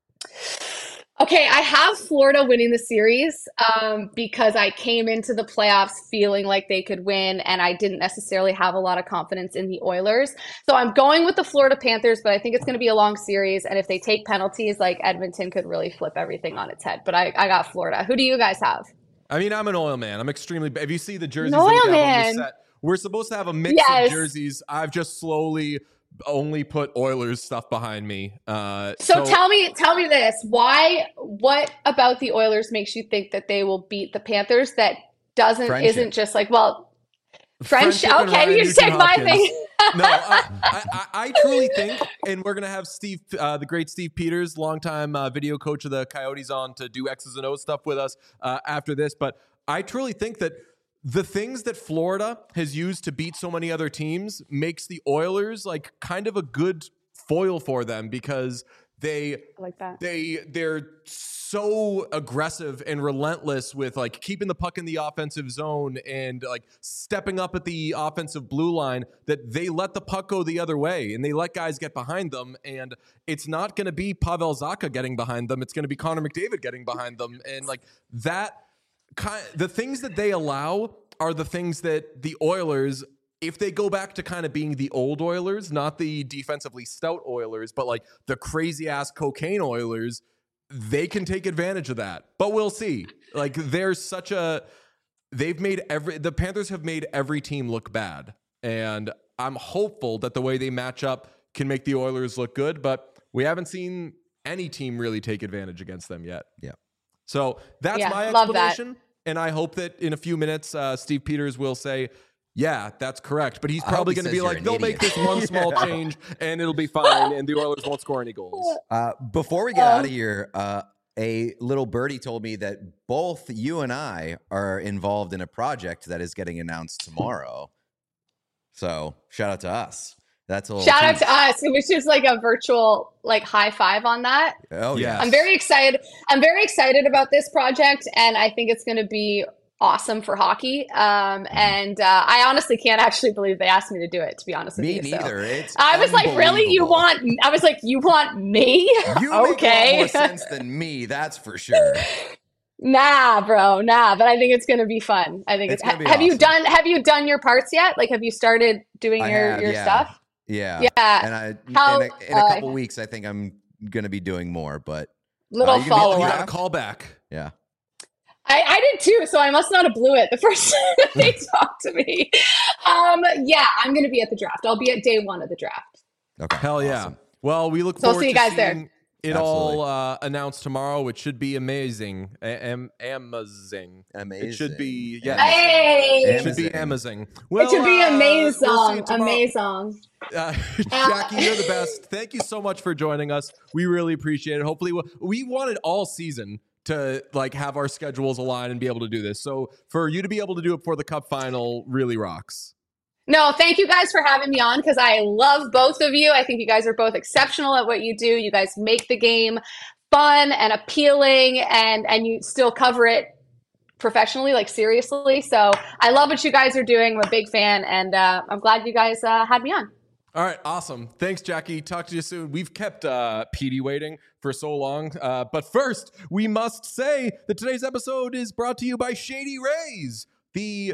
Okay, I have Florida winning the series um, because I came into the playoffs feeling like they could win, and I didn't necessarily have a lot of confidence in the Oilers. So I'm going with the Florida Panthers, but I think it's going to be a long series, and if they take penalties, like Edmonton could really flip everything on its head. But I, I got Florida. Who do you guys have? I mean, I'm an Oil man. I'm extremely. If you see the jerseys, An Oil that we have on man. the set, we're supposed to have a mix Yes. of jerseys. I've just slowly only put Oilers stuff behind me. Uh, So, tell me, tell me this: why? What about the Oilers makes you think that they will beat the Panthers? That doesn't Friendship. isn't just like, well, friendship. Friendship and Ryan Okay, you Nugent take my Hopkins. thing. No, I, I, I I truly think, and we're gonna have Steve, uh, the great Steve Peters, longtime uh, video coach of the Coyotes, on to do X's and O's stuff with us uh, after this. But I truly think that the things that Florida has used to beat so many other teams makes the Oilers like kind of a good foil for them, because they I like that. they they're so aggressive and relentless with like keeping the puck in the offensive zone and like stepping up at the offensive blue line that they let the puck go the other way and they let guys get behind them. And it's not going to be Pavel Zacha getting behind them. It's going to be Connor McDavid getting behind them. And like that kind, the things that they allow are the things that the Oilers, if they go back to kind of being the old Oilers, not the defensively stout Oilers, but like the crazy ass cocaine Oilers, they can take advantage of that. But we'll see. Like, there's such a, they've made every, the Panthers have made every team look bad. And I'm hopeful that the way they match up can make the Oilers look good, but we haven't seen any team really take advantage against them yet. Yeah. So that's Yeah, my love that. explanation. And I hope that in a few minutes, uh, Steve Peters will say, yeah, that's correct. But he's I hope probably he going to says be you're like, an they'll idiot. make this one small change and it'll be fine. And the Oilers won't score any goals. Uh, before we get Um, out of here, uh, a little birdie told me that both you and I are involved in a project that is getting announced tomorrow. So shout out to us. That's a little Shout out tease. to us. It was just like a virtual like high five on that. Oh yeah. Yes. I'm very excited. I'm very excited about this project, and I think it's going to be awesome for hockey. Um, and uh, I honestly can't actually believe they asked me to do it, to be honest with Me you. So. neither. It's I was like, really? You unbelievable. want? I was like, you want me? You make a lot okay. more sense than me, that's for sure. Nah, bro, nah. But I think it's going to be fun. I think It's it's. gonna be have you awesome. done? Have you done your parts yet? Like, have you started doing I your have, your yeah. stuff? Yeah. Yeah. And I How- in a, in a uh, couple weeks I think I'm gonna be doing more, but Little you can be- follow You Yeah. got a up. call back. yeah. I, I did too, so I must not have blew it the first time that they talked to me. Um, yeah, I'm going to be at the draft. I'll be at day one of the draft. Okay. Hell yeah. Awesome. Well, we look So I'll forward see you to guys there. seeing it all uh, announced tomorrow, which should be amazing. A- am- amazing. Amazing. It should be, yeah. Hey! It should be Amazing. amazing. Well, It should be uh, amazing. we'll see you tomorrow. amazing. Uh, Jackie, you're the best. Thank you so much for joining us. We really appreciate it. Hopefully, we, we wanted all season to like have our schedules align and be able to do this. So for you to be able to do it for the Cup final really rocks. No, thank you guys for having me on because I love both of you. I think you guys are both exceptional at what you do. You guys make the game fun and appealing, and and you still cover it professionally, like seriously. So I love what you guys are doing. I'm a big fan, and uh, I'm glad you guys uh, had me on. All right, awesome. Thanks, Jackie. Talk to you soon. We've kept uh, Petey waiting for so long. Uh, but first, we must say that today's episode is brought to you by Shady Rays, the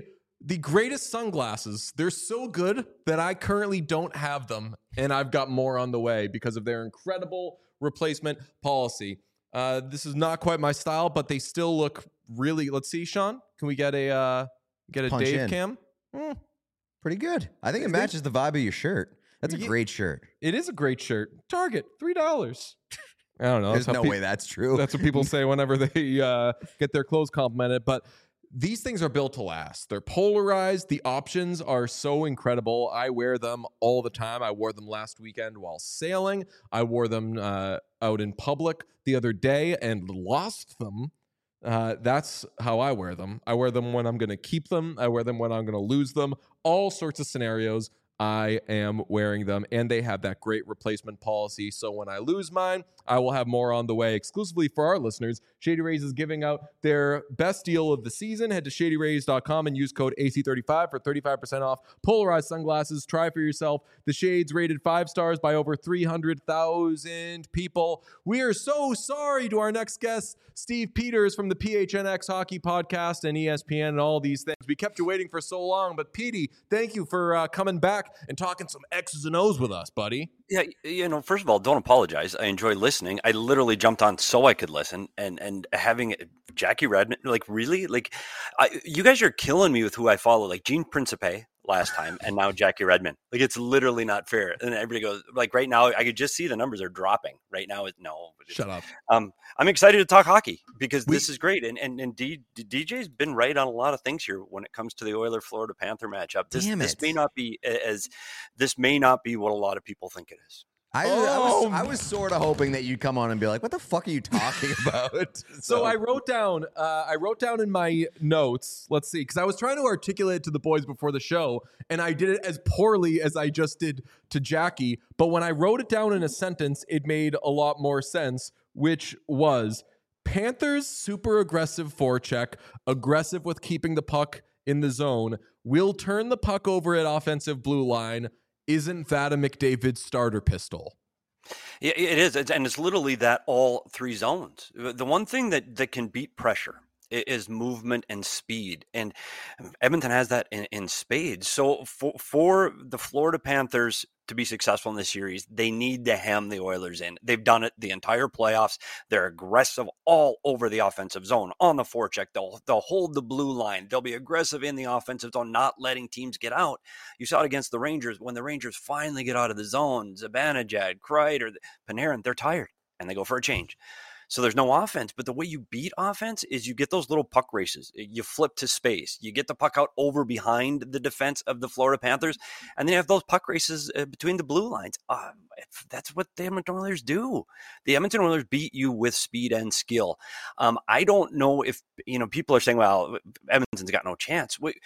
the greatest sunglasses. They're so good that I currently don't have them, and I've got more on the way because of their incredible replacement policy. Uh, this is not quite my style, but they still look really. Let's see, Sean. Can we get a uh, get a Punch Dave in. cam? Mm, Pretty good. I think it matches the vibe of your shirt. That's a Yeah. great shirt. it is a great shirt. Target three dollars. I don't know. There's That's how no pe- way that's true. That's what people say whenever they uh, get their clothes complimented. But these things are built to last. They're polarized. The options are so incredible. I wear them all the time. I wore them last weekend while sailing. I wore them uh, out in public the other day and lost them. Uh, that's how I wear them. I wear them when I'm going to keep them. I wear them when I'm going to lose them. All sorts of scenarios. I am wearing them, and they have that great replacement policy. So when I lose mine, I will have more on the way exclusively for our listeners. Shady Rays is giving out their best deal of the season. Head to shady rays dot com and use code A C thirty-five for thirty-five percent off polarized sunglasses. Try for yourself. The shades rated five stars by over three hundred thousand people. We are so sorry to our next guest, Steve Peters from the P H N X Hockey Podcast and E S P N and all these things. We kept you waiting for so long, but Petey, thank you for uh, coming back and talking some X's and O's with us, buddy. Yeah, you know, first of all, don't apologize. I enjoy listening. I literally jumped on so I could listen, and and having Jackie Redmond, like really, like I, you guys are killing me with who I follow, like Gene Principe last time, and now Jackie Redmond. Like it's literally not fair. And everybody goes like right now, I could just see the numbers are dropping right now. It, no, Shut up. Um, I'm excited to talk hockey because We- this is great, and and and D, D J's been right on a lot of things here when it comes to the Oiler Florida Panther matchup. This Damn this it. may not be as this may not be what a lot of people think it is. I, Oh. I was, I was sort of hoping that you'd come on and be like, "What the fuck are you talking about?" So I wrote down, uh, I wrote down in my notes. Let's see, because I was trying to articulate it to the boys before the show, and I did it as poorly as I just did to Jackie. But when I wrote it down in a sentence, it made a lot more sense, which was Panthers super aggressive forecheck, aggressive with keeping the puck in the zone, will turn the puck over at offensive blue line. Isn't that a McDavid starter pistol? Yeah, it is, It's- and it's literally that all three zones. The one thing that that can beat pressure i- is movement and speed, and Edmonton has that in, in spades. So for for the Florida Panthers to be successful in this series, they need to hem the Oilers in. They've done it the entire playoffs. They're aggressive all over the offensive zone on the forecheck. They'll they'll hold the blue line. They'll be aggressive in the offensive zone, not letting teams get out. You saw it against the Rangers when the Rangers finally get out of the zone. Zibanejad, Kreider, Panarin, they're tired and they go for a change. So there's no offense, but the way you beat offense is you get those little puck races. You flip to space. You get the puck out over behind the defense of the Florida Panthers, and then you have those puck races uh, between the blue lines. Uh, that's what the Edmonton Oilers do. The Edmonton Oilers beat you with speed and skill. Um, I don't know if, you know, people are saying, well, Edmonton's got no chance. Wait,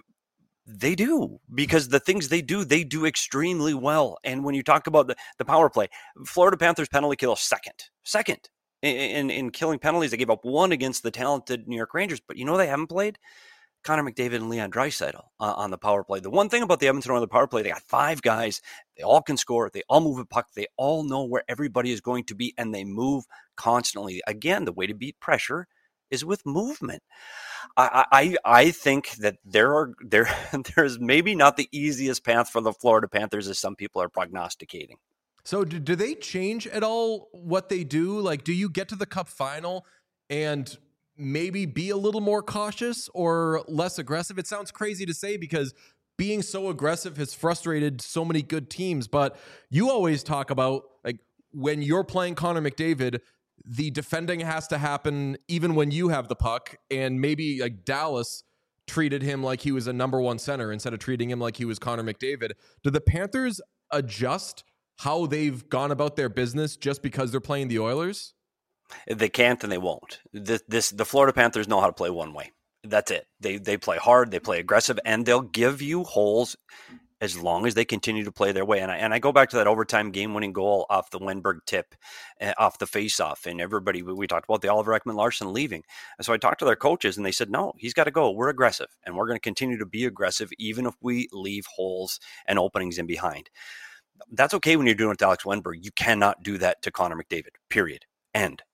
they do, because the things they do, they do extremely well. And when you talk about the, the power play, Florida Panthers penalty kill second, second. In, in killing penalties, they gave up one against the talented New York Rangers. But you know they haven't played? Connor McDavid and Leon Draisaitl uh, on the power play. The one thing about the Edmonton Oilers power play, they got five guys. They all can score. They all move a puck. They all know where everybody is going to be, and they move constantly. Again, the way to beat pressure is with movement. I I, I think that there are there there's maybe not the easiest path for the Florida Panthers as some people are prognosticating. So do, do they change at all what they do? Like, do you get to the cup final and maybe be a little more cautious or less aggressive? It sounds crazy to say because being so aggressive has frustrated so many good teams, but you always talk about like when you're playing Connor McDavid, the defending has to happen even when you have the puck, and maybe like Dallas treated him like he was a number one center instead of treating him like he was Connor McDavid. Do the Panthers adjust how they've gone about their business just because they're playing the Oilers? They can't and they won't. This, this the Florida Panthers know how to play one way. That's it. They they play hard, they play aggressive, and they'll give you holes as long as they continue to play their way. And I, and I go back to that overtime game-winning goal off the Wenberg tip, uh, off the face-off, and everybody, we talked about the Oliver Ekman-Larsson leaving. And so I talked to their coaches, and they said, no, he's got to go. We're aggressive, and we're going to continue to be aggressive even if we leave holes and openings in behind. That's okay when you're doing it to Alex Wenberg. You cannot do that to Connor McDavid, period. End.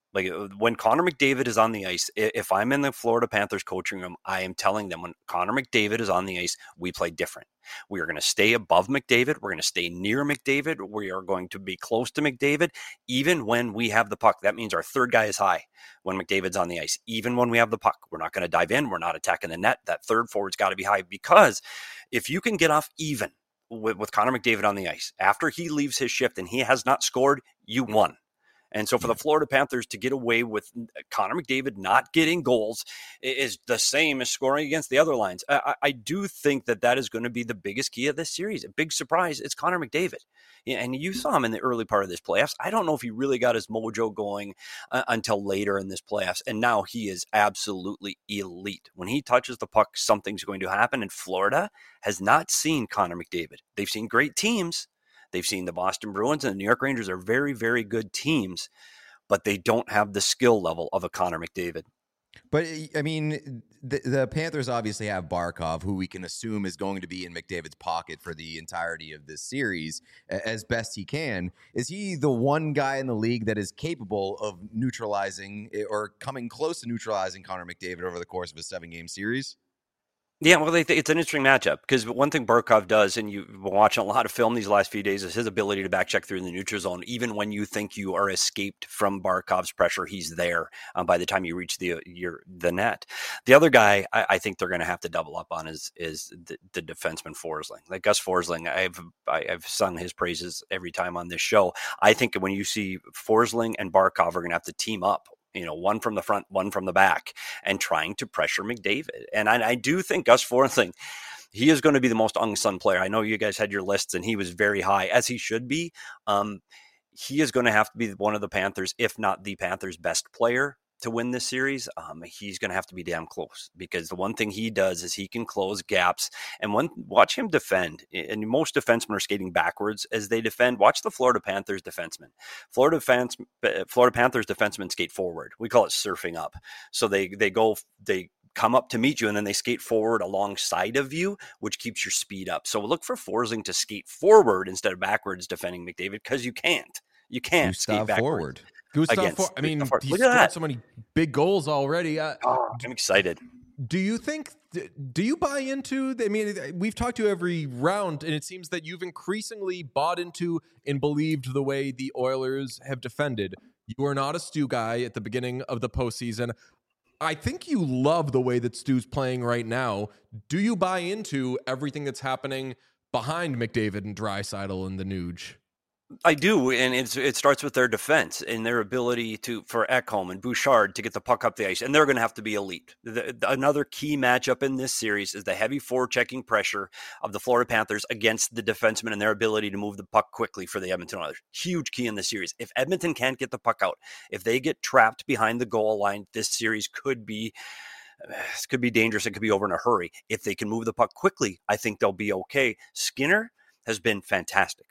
Like when Connor McDavid is on the ice, if I'm in the Florida Panthers coaching room, I am telling them when Connor McDavid is on the ice, we play different. We are going to stay above McDavid. We're going to stay near McDavid. We are going to be close to McDavid, even when we have the puck. That means our third guy is high when McDavid's on the ice. Even when we have the puck, we're not going to dive in. We're not attacking the net. That third forward's got to be high, because if you can get off even with, with Connor McDavid on the ice after he leaves his shift and he has not scored, you won. And so for the Florida Panthers to get away with Connor McDavid not getting goals is the same as scoring against the other lines. I, I do think that that is going to be the biggest key of this series. A big surprise, it's Connor McDavid. And you saw him in the early part of this playoffs. I don't know if he really got his mojo going uh, until later in this playoffs. And now he is absolutely elite. When he touches the puck, something's going to happen. And Florida has not seen Connor McDavid. They've seen great teams. They've seen the Boston Bruins and the New York Rangers are very, very good teams, but they don't have the skill level of a Connor McDavid. But, I mean, the, the Panthers obviously have Barkov, who we can assume is going to be in McDavid's pocket for the entirety of this series as best he can. Is he the one guy in the league that is capable of neutralizing or coming close to neutralizing Connor McDavid over the course of a seven-game series? Yeah, well, they, it's an interesting matchup because one thing Barkov does, and you've been watching a lot of film these last few days, is his ability to back check through the neutral zone. Even when you think you are escaped from Barkov's pressure, he's there um, by the time you reach the your the net. The other guy I, I think they're going to have to double up on is is the, the defenseman Forsling. Like Gus Forsling, I've I, I've sung his praises every time on this show. I think when you see Forsling and Barkov are going to have to team up. You know, one from the front, one from the back, and trying to pressure McDavid. And I, I do think Gus Forsling, he is going to be the most unsung player. I know you guys had your lists, and he was very high, as he should be. Um, he is going to have to be one of the Panthers, if not the Panthers' best player to win this series. Um, he's going to have to be damn close, because the one thing he does is he can close gaps. And when watch him defend, and most defensemen are skating backwards as they defend. Watch the Florida Panthers defensemen. Florida fans, Florida Panthers defensemen skate forward. We call it surfing up. So they they go they. come up to meet you, and then they skate forward alongside of you, which keeps your speed up. So look for Forsling to skate forward instead of backwards defending McDavid, because you can't. You can't Gustav skate backwards. forward. Gustav, Against, For- I mean, Gustav he's Look at scored that. so many big goals already. Uh, Oh, I'm excited. do you think? Do you buy into? I mean, we've talked to you every round, and it seems that you've increasingly bought into and believed the way the Oilers have defended. You are not a Stu guy at the beginning of the postseason. I think you love the way that Stu's playing right now. Do you buy into everything that's happening behind McDavid and Draisaitl and the Nuge? I do, and it's, it starts with their defense and their ability to for Ekholm and Bouchard to get the puck up the ice, and they're going to have to be elite. The, the, another key matchup in this series is the heavy forechecking pressure of the Florida Panthers against the defensemen and their ability to move the puck quickly for the Edmonton Oilers. Huge key in the series. If Edmonton can't get the puck out, if they get trapped behind the goal line, this series could be This could be dangerous. It could be over in a hurry. If they can move the puck quickly, I think they'll be okay. Skinner has been fantastic.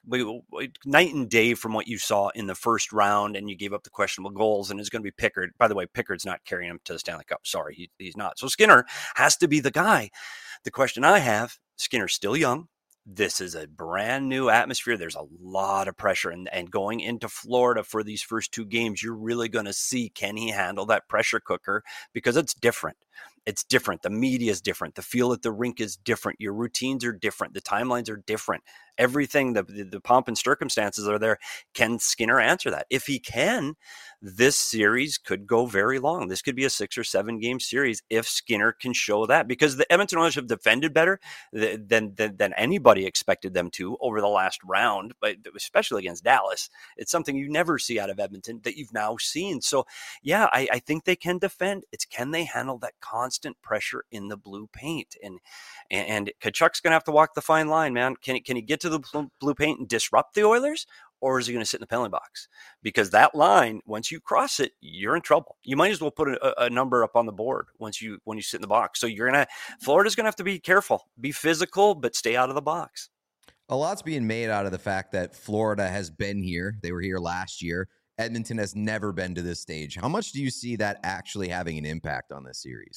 Night and day from what you saw in the first round, and you gave up the questionable goals, and it's going to be Pickard. By the way, Pickard's not carrying him to the Stanley Cup. Sorry, he, he's not. So Skinner has to be the guy. The question I have, Skinner's still young. This is a brand new atmosphere. There's a lot of pressure, and, and going into Florida for these first two games, you're really going to see, can he handle that pressure cooker? Because it's different. It's different. The media is different. The feel at the rink is different. Your routines are different. The timelines are different. Everything, the, the, the pomp and circumstances are there. Can Skinner answer that? If he can, this series could go very long. This could be a six or seven game series if Skinner can show that, because the Edmonton Oilers have defended better than, than, than anybody expected them to over the last round, but especially against Dallas. It's something you never see out of Edmonton that you've now seen. So yeah, I, I think they can defend. It's can they handle that constant pressure in the blue paint? And and Tkachuk's going to have to walk the fine line, man. Can he, can he get to the blue paint and disrupt the Oilers? Or is he going to sit in the penalty box? Because that line, once you cross it, you're in trouble. You might as well put a, a number up on the board once you when you sit in the box. So you're gonna Florida's going to have to be careful, be physical, but stay out of the box. A lot's being made out of the fact that Florida has been here. They were here last year. Edmonton has never been to this stage. How much do you see that actually having an impact on this series?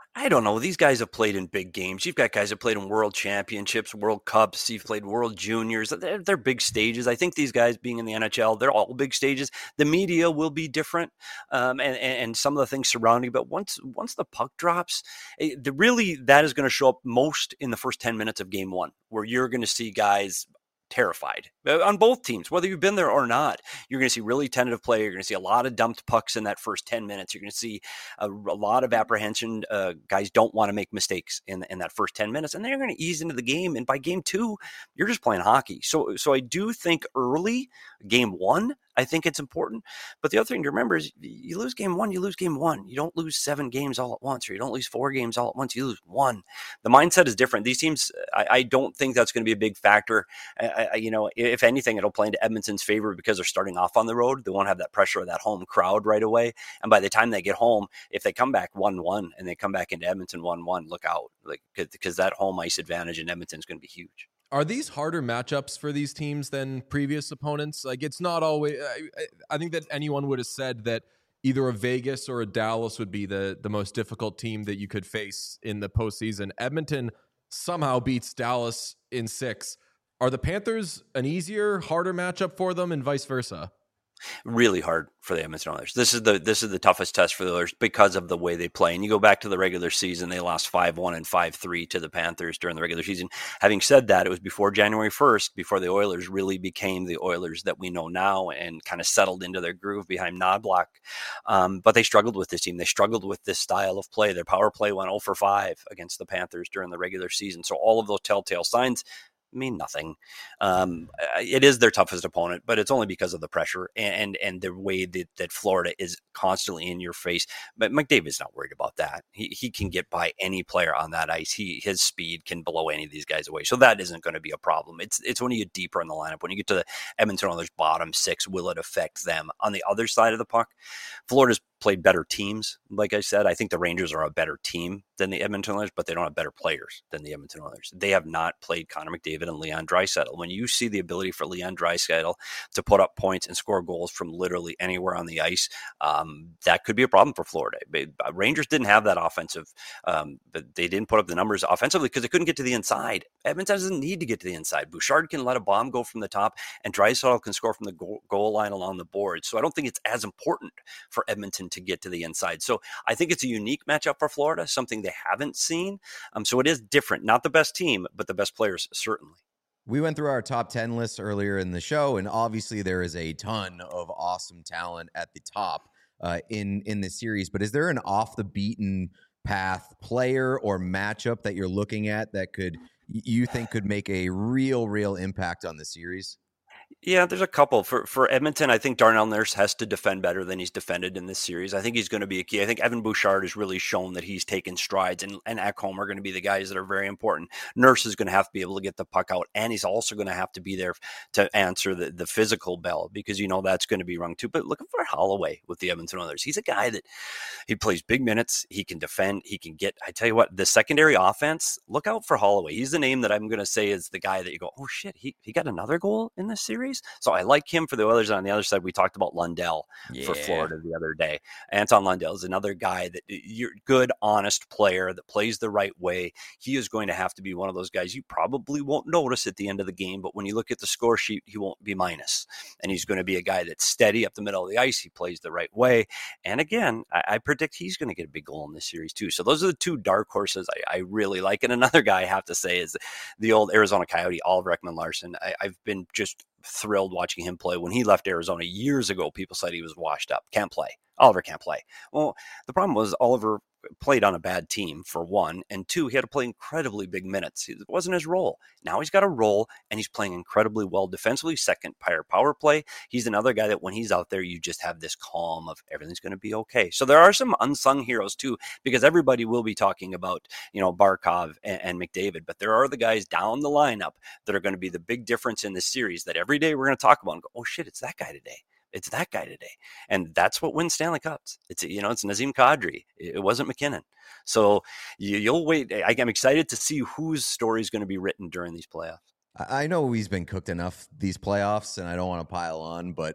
I don't know. These guys have played in big games. You've got guys that played in World Championships, World Cups. You've played World Juniors. They're, they're big stages. I think these guys being in the N H L, they're all big stages. The media will be different, um, and, and some of the things surrounding. But once once the puck drops, it, the, really that is going to show up most in the first ten minutes of Game One, where you're going to see guys terrified on both teams, whether you've been there or not. You're going to see really tentative play. You're going to see a lot of dumped pucks in that first ten minutes. You're going to see a, a lot of apprehension. Uh, guys don't want to make mistakes in, in that first ten minutes, and they're going to ease into the game. And by game two, you're just playing hockey. So, so I do think early game one, I think it's important. But the other thing to remember is you lose game one, you lose game one. You don't lose seven games all at once, or you don't lose four games all at once. You lose one. The mindset is different. These teams, I, I don't think that's going to be a big factor. I, I, you know, if anything, it'll play into Edmonton's favor because they're starting off on the road. They won't have that pressure of that home crowd right away. And by the time they get home, if they come back one one and they come back into Edmonton one one, look out, like because that home ice advantage in Edmonton is going to be huge. Are these harder matchups for these teams than previous opponents? Like, it's not always. I, I think that anyone would have said that either a Vegas or a Dallas would be the the most difficult team that you could face in the postseason. Edmonton somehow beats Dallas in six. Are the Panthers an easier, harder matchup for them, and vice versa? Really hard for the Edmonton Oilers. This is the this is the toughest test for the Oilers because of the way they play. And you go back to the regular season, they lost five one and five three to the Panthers during the regular season. Having said that, it was before January first, before the Oilers really became the Oilers that we know now and kind of settled into their groove behind Knoblauch. Um, but they struggled with this team. They struggled with this style of play. Their power play went oh for five against the Panthers during the regular season. So all of those telltale signs mean nothing. Um, it is their toughest opponent, but it's only because of the pressure and and the way that, that Florida is constantly in your face. But McDavid's not worried about that. He he can get by any player on that ice. He his speed can blow any of these guys away. So that isn't going to be a problem. It's it's when you get deeper in the lineup, when you get to the Edmonton Oilers bottom six, will it affect them? On the other side of the puck, Florida's played better teams. Like I said, I think the Rangers are a better team than the Edmonton Oilers, but they don't have better players than the Edmonton Oilers. They have not played Connor McDavid and Leon Draisaitl. When you see the ability for Leon Draisaitl to put up points and score goals from literally anywhere on the ice, um, that could be a problem for Florida. But Rangers didn't have that offensive, um, but they didn't put up the numbers offensively because they couldn't get to the inside. Edmonton doesn't need to get to the inside. Bouchard can let a bomb go from the top, and Draisaitl can score from the goal, goal line along the board. So I don't think it's as important for Edmonton to get to the inside. So I think it's a unique matchup for Florida, something they haven't seen. Um, so it is different. Not the best team, but the best players, certainly. We went through our top ten lists earlier in the show, and obviously there is a ton of awesome talent at the top uh, in, in this series. But is there an off-the-beaten path player or matchup that you're looking at that could you think could make a real, real impact on the series? Yeah, there's a couple. For for Edmonton, I think Darnell Nurse has to defend better than he's defended in this series. I think he's going to be a key. I think Evan Bouchard has really shown that he's taken strides, and, and Ekholm are going to be the guys that are very important. Nurse is going to have to be able to get the puck out, and he's also going to have to be there to answer the, the physical bell, because you know that's going to be rung too. But looking for Holloway with the Edmonton Oilers. He's a guy that he plays big minutes. He can defend. He can get, I tell you what, the secondary offense, look out for Holloway. He's the name that I'm going to say is the guy that you go, oh shit, he, he got another goal in this series. So I like him for the Oilers. And on the other side, we talked about Lundell yeah. for Florida the other day. Anton Lundell is another guy that you're good, honest player that plays the right way. He is going to have to be one of those guys you probably won't notice at the end of the game, but when you look at the score sheet, he won't be minus. And he's going to be a guy that's steady up the middle of the ice. He plays the right way. And again, I, I predict he's going to get a big goal in this series too. So those are the two dark horses I, I really like. And another guy I have to say is the old Arizona Coyote, Oliver Ekman-Larsson. I, I've been just thrilled watching him play. When he left Arizona years ago, people said he was washed up. Can't play. Oliver can't play. Well, the problem was Oliver played on a bad team, for one, and two, he had to play incredibly big minutes. It wasn't his role. Now he's got a role, and he's playing incredibly well defensively, second power power play. He's another guy that when he's out there, you just have this calm of everything's going to be okay. So there are some unsung heroes too, because everybody will be talking about, you know, Barkov and, and McDavid, but there are the guys down the lineup that are going to be the big difference in this series that every day we're going to talk about and go, oh shit, it's that guy today. It's that guy today. And that's what wins Stanley Cups. It's, you know, it's Nazem Kadri. It wasn't McKinnon. So you, you'll wait. I, I'm excited to see whose story is going to be written during these playoffs. I know he's been cooked enough these playoffs, and I don't want to pile on, but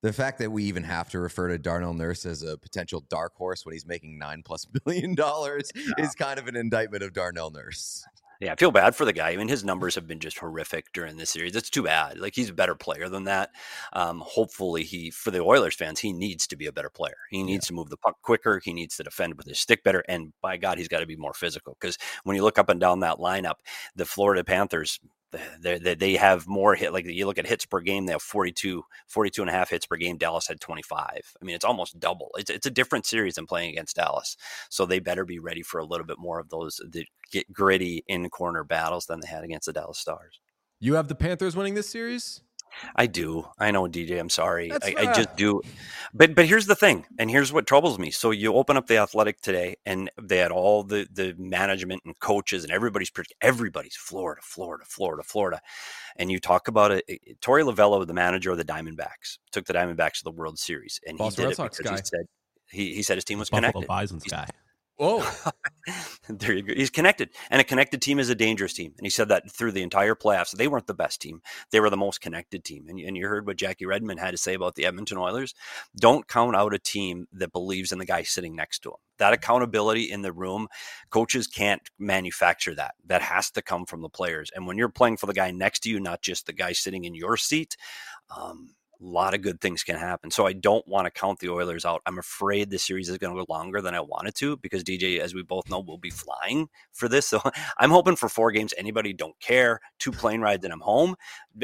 The fact that we even have to refer to Darnell Nurse as a potential dark horse when he's making nine plus billion dollars yeah. is kind of an indictment of Darnell Nurse. Yeah, I feel bad for the guy. I mean, his numbers have been just horrific during this series. It's too bad. Like, he's a better player than that. Um, hopefully, he, for the Oilers fans, he needs to be a better player. He needs yeah. to move the puck quicker. He needs to defend with his stick better. And by God, he's got to be more physical. Because when you look up and down that lineup, the Florida Panthers, They, they they have more hit. Like, you look at hits per game, they have forty-two, forty-two and a half hits per game. Dallas had twenty-five. I mean, it's almost double. It's it's a different series than playing against Dallas. So they better be ready for a little bit more of those the get gritty in corner battles than they had against the Dallas Stars. You have the Panthers winning this series? I do. I know, D J. I'm sorry. I, uh... I just do. But but here's the thing, and here's what troubles me. So you open up the Athletic today, and they had all the the management and coaches, and everybody's everybody's Florida, Florida, Florida, Florida, and you talk about it. Torey Lovullo, the manager of the Diamondbacks, took the Diamondbacks to the World Series, and Boston he did Red it Sox because guy. he said he he said his team was Buffalo connected. Bison's guy. Oh, there you go. He's connected, and a connected team is a dangerous team. And he said that through the entire playoffs. They weren't the best team; they were the most connected team. And, and you heard what Jackie Redmond had to say about the Edmonton Oilers. Don't count out a team that believes in the guy sitting next to him. That accountability in the room, coaches can't manufacture that. That has to come from the players. And when you're playing for the guy next to you, not just the guy sitting in your seat, um, a lot of good things can happen. So I don't want to count the Oilers out. I'm afraid this series is going to go longer than I wanted to because D J, as we both know, will be flying for this. So I'm hoping for four games. Anybody don't care. Two plane rides and I'm home.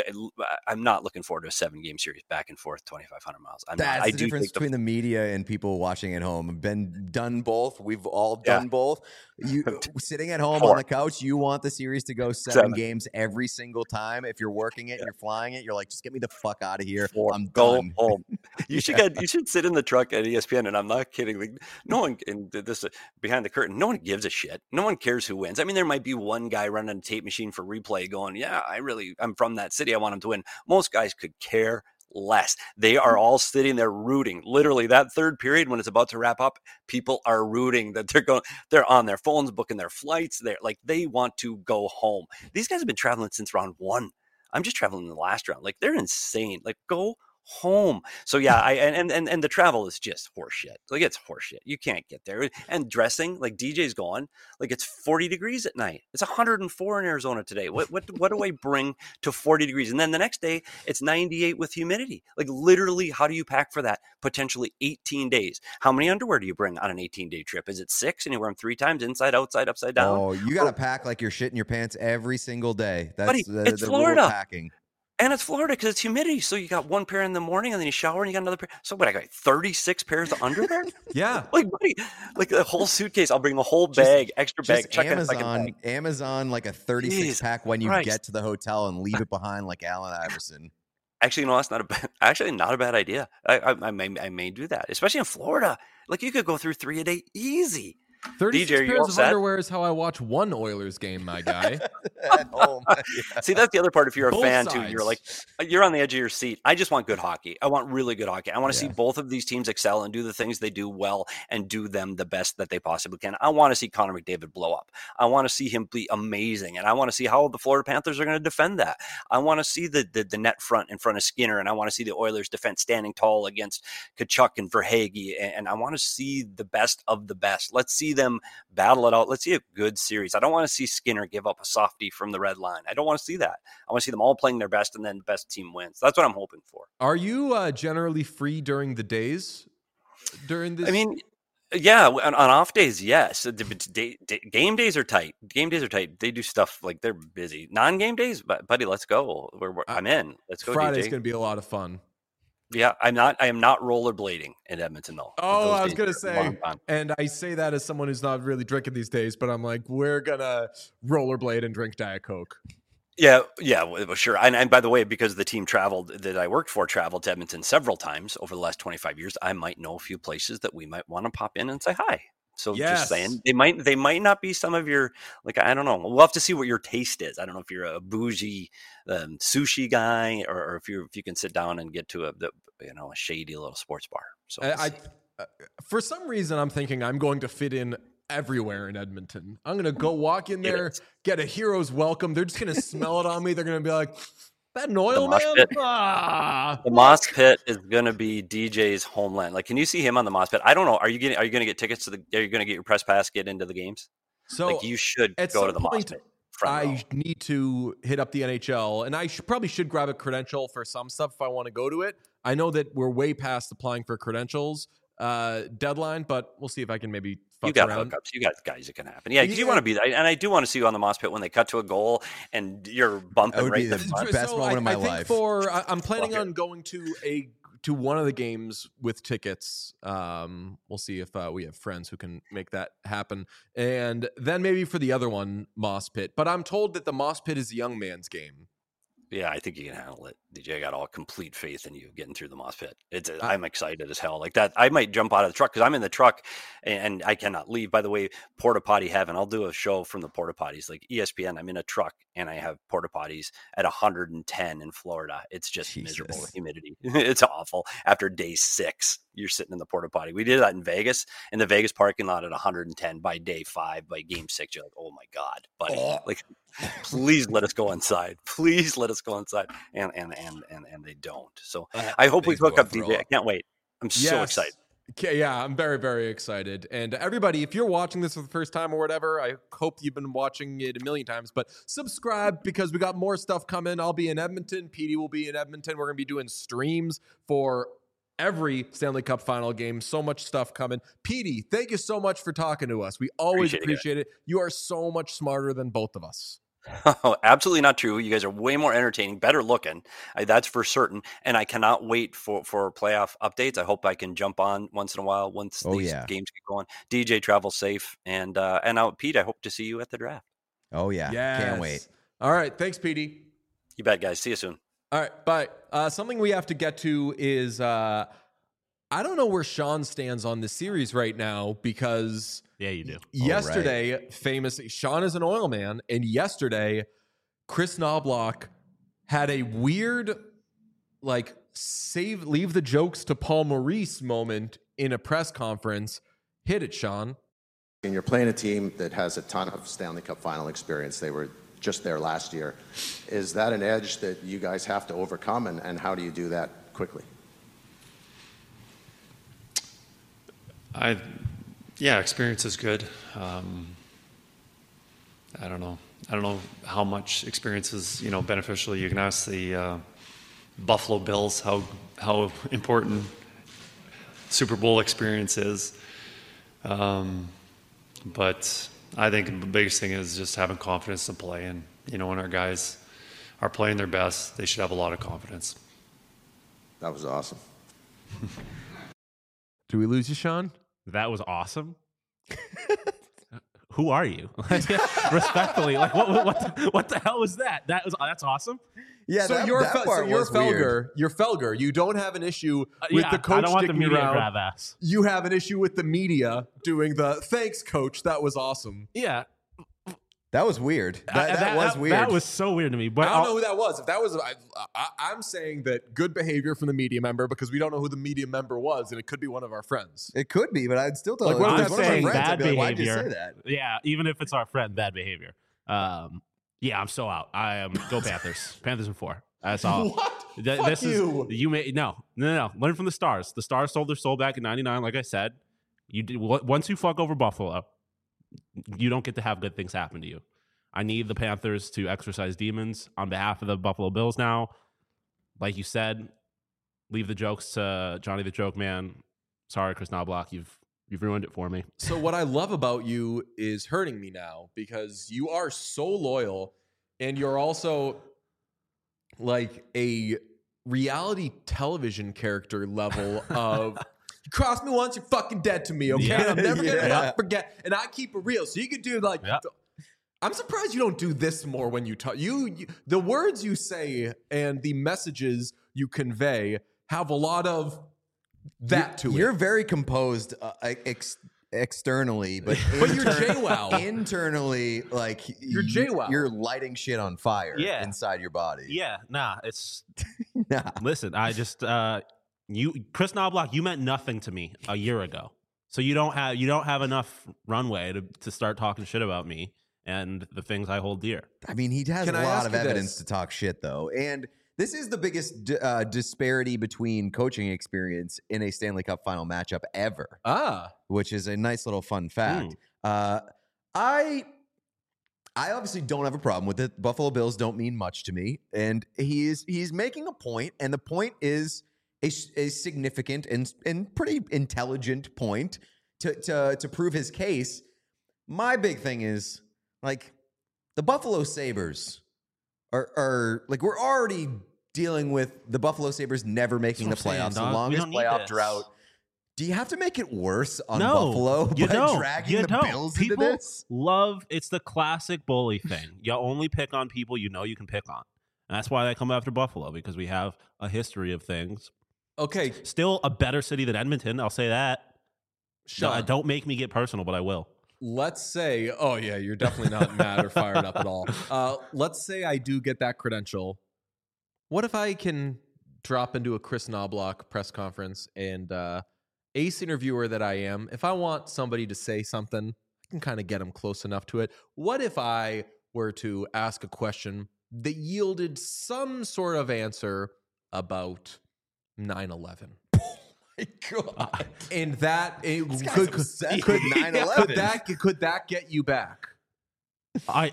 I'm not looking forward to a seven game series back and forth, twenty-five hundred miles. I'm That's not, I the do difference think the, between the media and people watching at home. I've been done both. We've all done Yeah. both. You sitting at home Four. on the couch, you want the series to go seven, Seven. games every single time. If you're working it, Yeah. you're flying it, you're like, just get me the fuck out of here. Four. I'm Go done. home. You should get. You should sit in the truck at E S P N, and I'm not kidding. Like, no one, and this uh, behind the curtain, no one gives a shit. No one cares who wins. I mean, there might be one guy running a tape machine for replay, going, "Yeah, I really, I'm from that city. I want him to win." Most guys could care less. They are all sitting there rooting. Literally, that third period when it's about to wrap up, people are rooting that they're going. They're on their phones, booking their flights. They're like, they want to go home. These guys have been traveling since round one. I'm just traveling in the last round. Like, they're insane. Like, go home. So yeah, I and and and the travel is just horseshit. Like, it's horseshit. You can't get there. And dressing, like D J's going, like, it's forty degrees at night. It's one hundred four in Arizona today. What what what do I bring to forty degrees? And then the next day it's ninety-eight with humidity. Like, literally, how do you pack for that? Potentially eighteen days. How many underwear do you bring on an eighteen day trip? Is it six and you wear them three times, inside, outside, upside down? Oh, you got to pack like you're shitting your pants every single day. That's Buddy, the, it's the Florida. rule of packing. And it's Florida because it's humidity. So you got one pair in the morning and then you shower and you got another pair. So what, I got thirty-six pairs of underwear? yeah. Like, buddy, like the whole suitcase. I'll bring the whole bag, Just- extra bag. Just check in a Amazon, second bag. Amazon, like a thirty-six Jeez pack when you Christ. get to the hotel and leave it behind, like Allen Iverson. Actually, no, that's not a bad, actually not a bad idea. I, I, I may I may do that, especially in Florida. Like, you could go through three a day easy. thirty-six D J, are you all pairs of set? underwear is how I watch one Oilers game, my guy. At home. Yeah. See, that's the other part. If you're a Both fan too, sides. you're like, you're on the edge of your seat. I just want good hockey. I want really good hockey. I want to Yeah. see both of these teams excel and do the things they do well and do them the best that they possibly can. I want to see Connor McDavid blow up. I want to see him be amazing. And I want to see how the Florida Panthers are going to defend that. I want to see the, the, the net front in front of Skinner. And I want to see the Oilers defense standing tall against Kachuk and Verhaeghe. And, and I want to see the best of the best. Let's see them battle it out. Let's see a good series. I don't want to see Skinner give up a softie from the red line. I don't want to see that. I want to see them all playing their best and then the best team wins. That's what I'm hoping for. Are you uh, generally free during the days? During this? I mean, yeah, on, on off days, yes. The- the day- day- Game days are tight. Game days are tight. They do stuff like they're busy. Non-game days, but buddy, let's go. We're, we're, I'm in. Let's go, Friday's D J. going to be a lot of fun. Yeah, I'm not. I am not rollerblading in Edmonton though. Oh, Those I was days gonna are a say, long time. and I say that as someone who's not really drinking these days, but I'm like, we're gonna rollerblade and drink Diet Coke. Yeah, yeah, well, sure. And, and by the way, because the team traveled that I worked for traveled to Edmonton several times over the last twenty-five years, I might know a few places that we might want to pop in and say hi. So Yes. just saying, they might they might not be some of your, like, I don't know. We'll have to see what your taste is. I don't know if you're a bougie um, sushi guy or, or if you if you can sit down and get to a the, you know a shady little sports bar. So we'll I, see. I, uh, for some reason, I'm thinking I'm going to fit in everywhere in Edmonton. I'm gonna go walk in there, get a hero's welcome. They're just gonna smell it on me. They're gonna be like, That an oil mosh man? pit. Ah, The Moss Pit is going to be D J's homeland. Like, can you see him on the Moss Pit? I don't know. Are you getting? Are you going to get tickets to the? Are you going to get your press pass? Get into the games? so Like, you should at go some to the Moss point, Pit. Front row. I need to hit up the N H L, and I should, probably should grab a credential for some stuff if I want to go to it. I know that we're way past applying for credentials uh, deadline, but we'll see if I can maybe fuck You got around. hookups. You got guys that can happen. Yeah, because Yeah. you want to be there. And I do want to see you on the Moss Pit when they cut to a goal and you're bumping That would right be in the the front. best moment I, of my I think life. For I, I'm planning Fuck it. on going to a to one of the games with tickets. Um, we'll see if uh, we have friends who can make that happen, and then maybe for the other one, Moss Pit. But I'm told that the Moss Pit is a young man's game. Yeah, I think you can handle it. D J, I got all complete faith in you getting through the Moss Pit. It's I- I'm excited as hell. Like that, I might jump out of the truck because I'm in the truck and, and I cannot leave. By the way, porta potty heaven. I'll do a show from the porta potties, like E S P N. I'm in a truck and I have porta potties at one hundred ten in Florida. It's just miserable Jesus. with humidity. It's awful. After day six, you're sitting in the porta potty. We did that in Vegas, in the Vegas parking lot at one hundred ten. By day five, by game six, you're like, oh my god, buddy, like. Please let us go inside. Please let us go inside. And and and and, and they don't. So I hope we Makes me hook wanna up, D throw J. up. I can't wait. I'm so Yes. excited. Okay, yeah, I'm very, very excited. And everybody, if you're watching this for the first time or whatever, I hope you've been watching it a million times. But subscribe because we got more stuff coming. I'll be in Edmonton. P D will be in Edmonton. We're going to be doing streams for every Stanley Cup final game. So much stuff coming. P D, thank you so much for talking to us. We always Appreciate it, appreciate it. You are so much smarter than both of us. Oh, absolutely not true. You guys are way more entertaining, better looking. I, that's for certain. And I cannot wait for, for playoff updates. I hope I can jump on once in a while once Oh, these yeah. games get going. D J, travel safe. And uh, and now, Pete, I hope to see you at the draft. Oh yeah, can't wait. All right. Thanks, P D. You bet, guys. See you soon. All right, but uh, something we have to get to is uh, I don't know where Sean stands on this series right now because Yeah, you do. yesterday, famously, Sean is an oil man, and yesterday, Chris Knobloch had a weird, like, save, leave the jokes to Paul Maurice moment in a press conference. Hit it, Sean. And you're playing a team that has a ton of Stanley Cup final experience. They were just there last year. Is that an edge that you guys have to overcome, and, and how do you do that quickly? I, yeah, experience is good. Um, I don't know. I don't know how much experience is, you know, beneficial. You can ask the uh, Buffalo Bills how how important Super Bowl experience is. Um, but I think the biggest thing is just having confidence to play. And, you know, when our guys are playing their best, they should have a lot of confidence. That was awesome. Do we lose you, Sean? That was awesome. Who are you? Respectfully, like what, what, what, the, what the hell was that? That was that's awesome. Yeah, so that, you're, that Fel- part so you're was Felger. weird. You're Felger. You don't have an issue Uh, with yeah, the coach I don't want the sticking media around. grab ass. You have an issue with the media doing the thanks, coach. That was awesome. Yeah, That was weird. That, I- that, was weird. That was so weird to me. But I don't I'll- know who that was. If that was, I, I, I'm saying that good behavior from the media member because we don't know who the media member was, and it could be one of our friends. It could be, but I'd still tell Like, like, what if if it was that's one of saying my friends, bad I'd be like, why'd you behavior? say that? Yeah, even if it's our friend, bad behavior. Um, yeah, I'm so out. I am go Panthers. Panthers in four. That's all. What? Th- Fuck this you. is you may no no no. Learn from the Stars. The Stars sold their soul back in ninety-nine. Like I said, you did w- once you fuck over Buffalo, you don't get to have good things happen to you. I need the Panthers to exercise demons on behalf of the Buffalo Bills now. Like you said, leave the jokes to Johnny the Joke Man. Sorry, Chris Knobloch, you've you've ruined it for me. So what I love about you is hurting me now because you are so loyal, and you're also like a reality television character level of you cross me once, you're fucking dead to me, okay? Yeah. I'm never gonna Yeah. not forget. And I keep it real. So you could do like Yeah. the- I'm surprised you don't do this more when you talk. You, you the words you say and the messages you convey have a lot of that to You're it. very composed uh, ex- externally, but But you're inter- JWoww. internally, like You're you- JWoww. You're lighting shit on fire Yeah. inside your body. Yeah, nah, it's Nah. listen, I just uh you Chris Knobloch, you meant nothing to me a year ago. So you don't have you don't have enough runway to, to start talking shit about me and the things I hold dear. I mean, he has Can a I lot ask of you evidence this? to talk shit, though. And This is the biggest d- uh, disparity between coaching experience in a Stanley Cup final matchup ever, Ah, which is a nice little fun fact. Mm. Uh, I I obviously don't have a problem with it. Buffalo Bills don't mean much to me, and he's he's making a point, and the point is a, s- a significant and and pretty intelligent point to to to prove his case. My big thing is like the Buffalo Sabres are are like we're already dealing with the Buffalo Sabres never making the That's what I'm playoffs, saying, the dog. We longest don't need playoff this. drought. Do you have to make it worse on No, Buffalo you by don't. dragging You the don't. Bills People into this? love it's the classic bully thing. You only pick on people you know you can pick on. And that's why they come after Buffalo, because we have a history of things. okay, Still a better city than Edmonton, I'll say that. Sean. No, don't make me get personal, but I will. Let's say, oh yeah, you're definitely not mad or fired up at all. Uh, let's say I do get that credential. What if I can drop into a Chris Knobloch press conference and uh, ace interviewer that I am, if I want somebody to say something, I can kind of get them close enough to it. What if I were to ask a question that yielded some sort of answer about nine eleven? My God. And that it, This guy's could, obsessed could, with nine eleven. could that could that get you back? I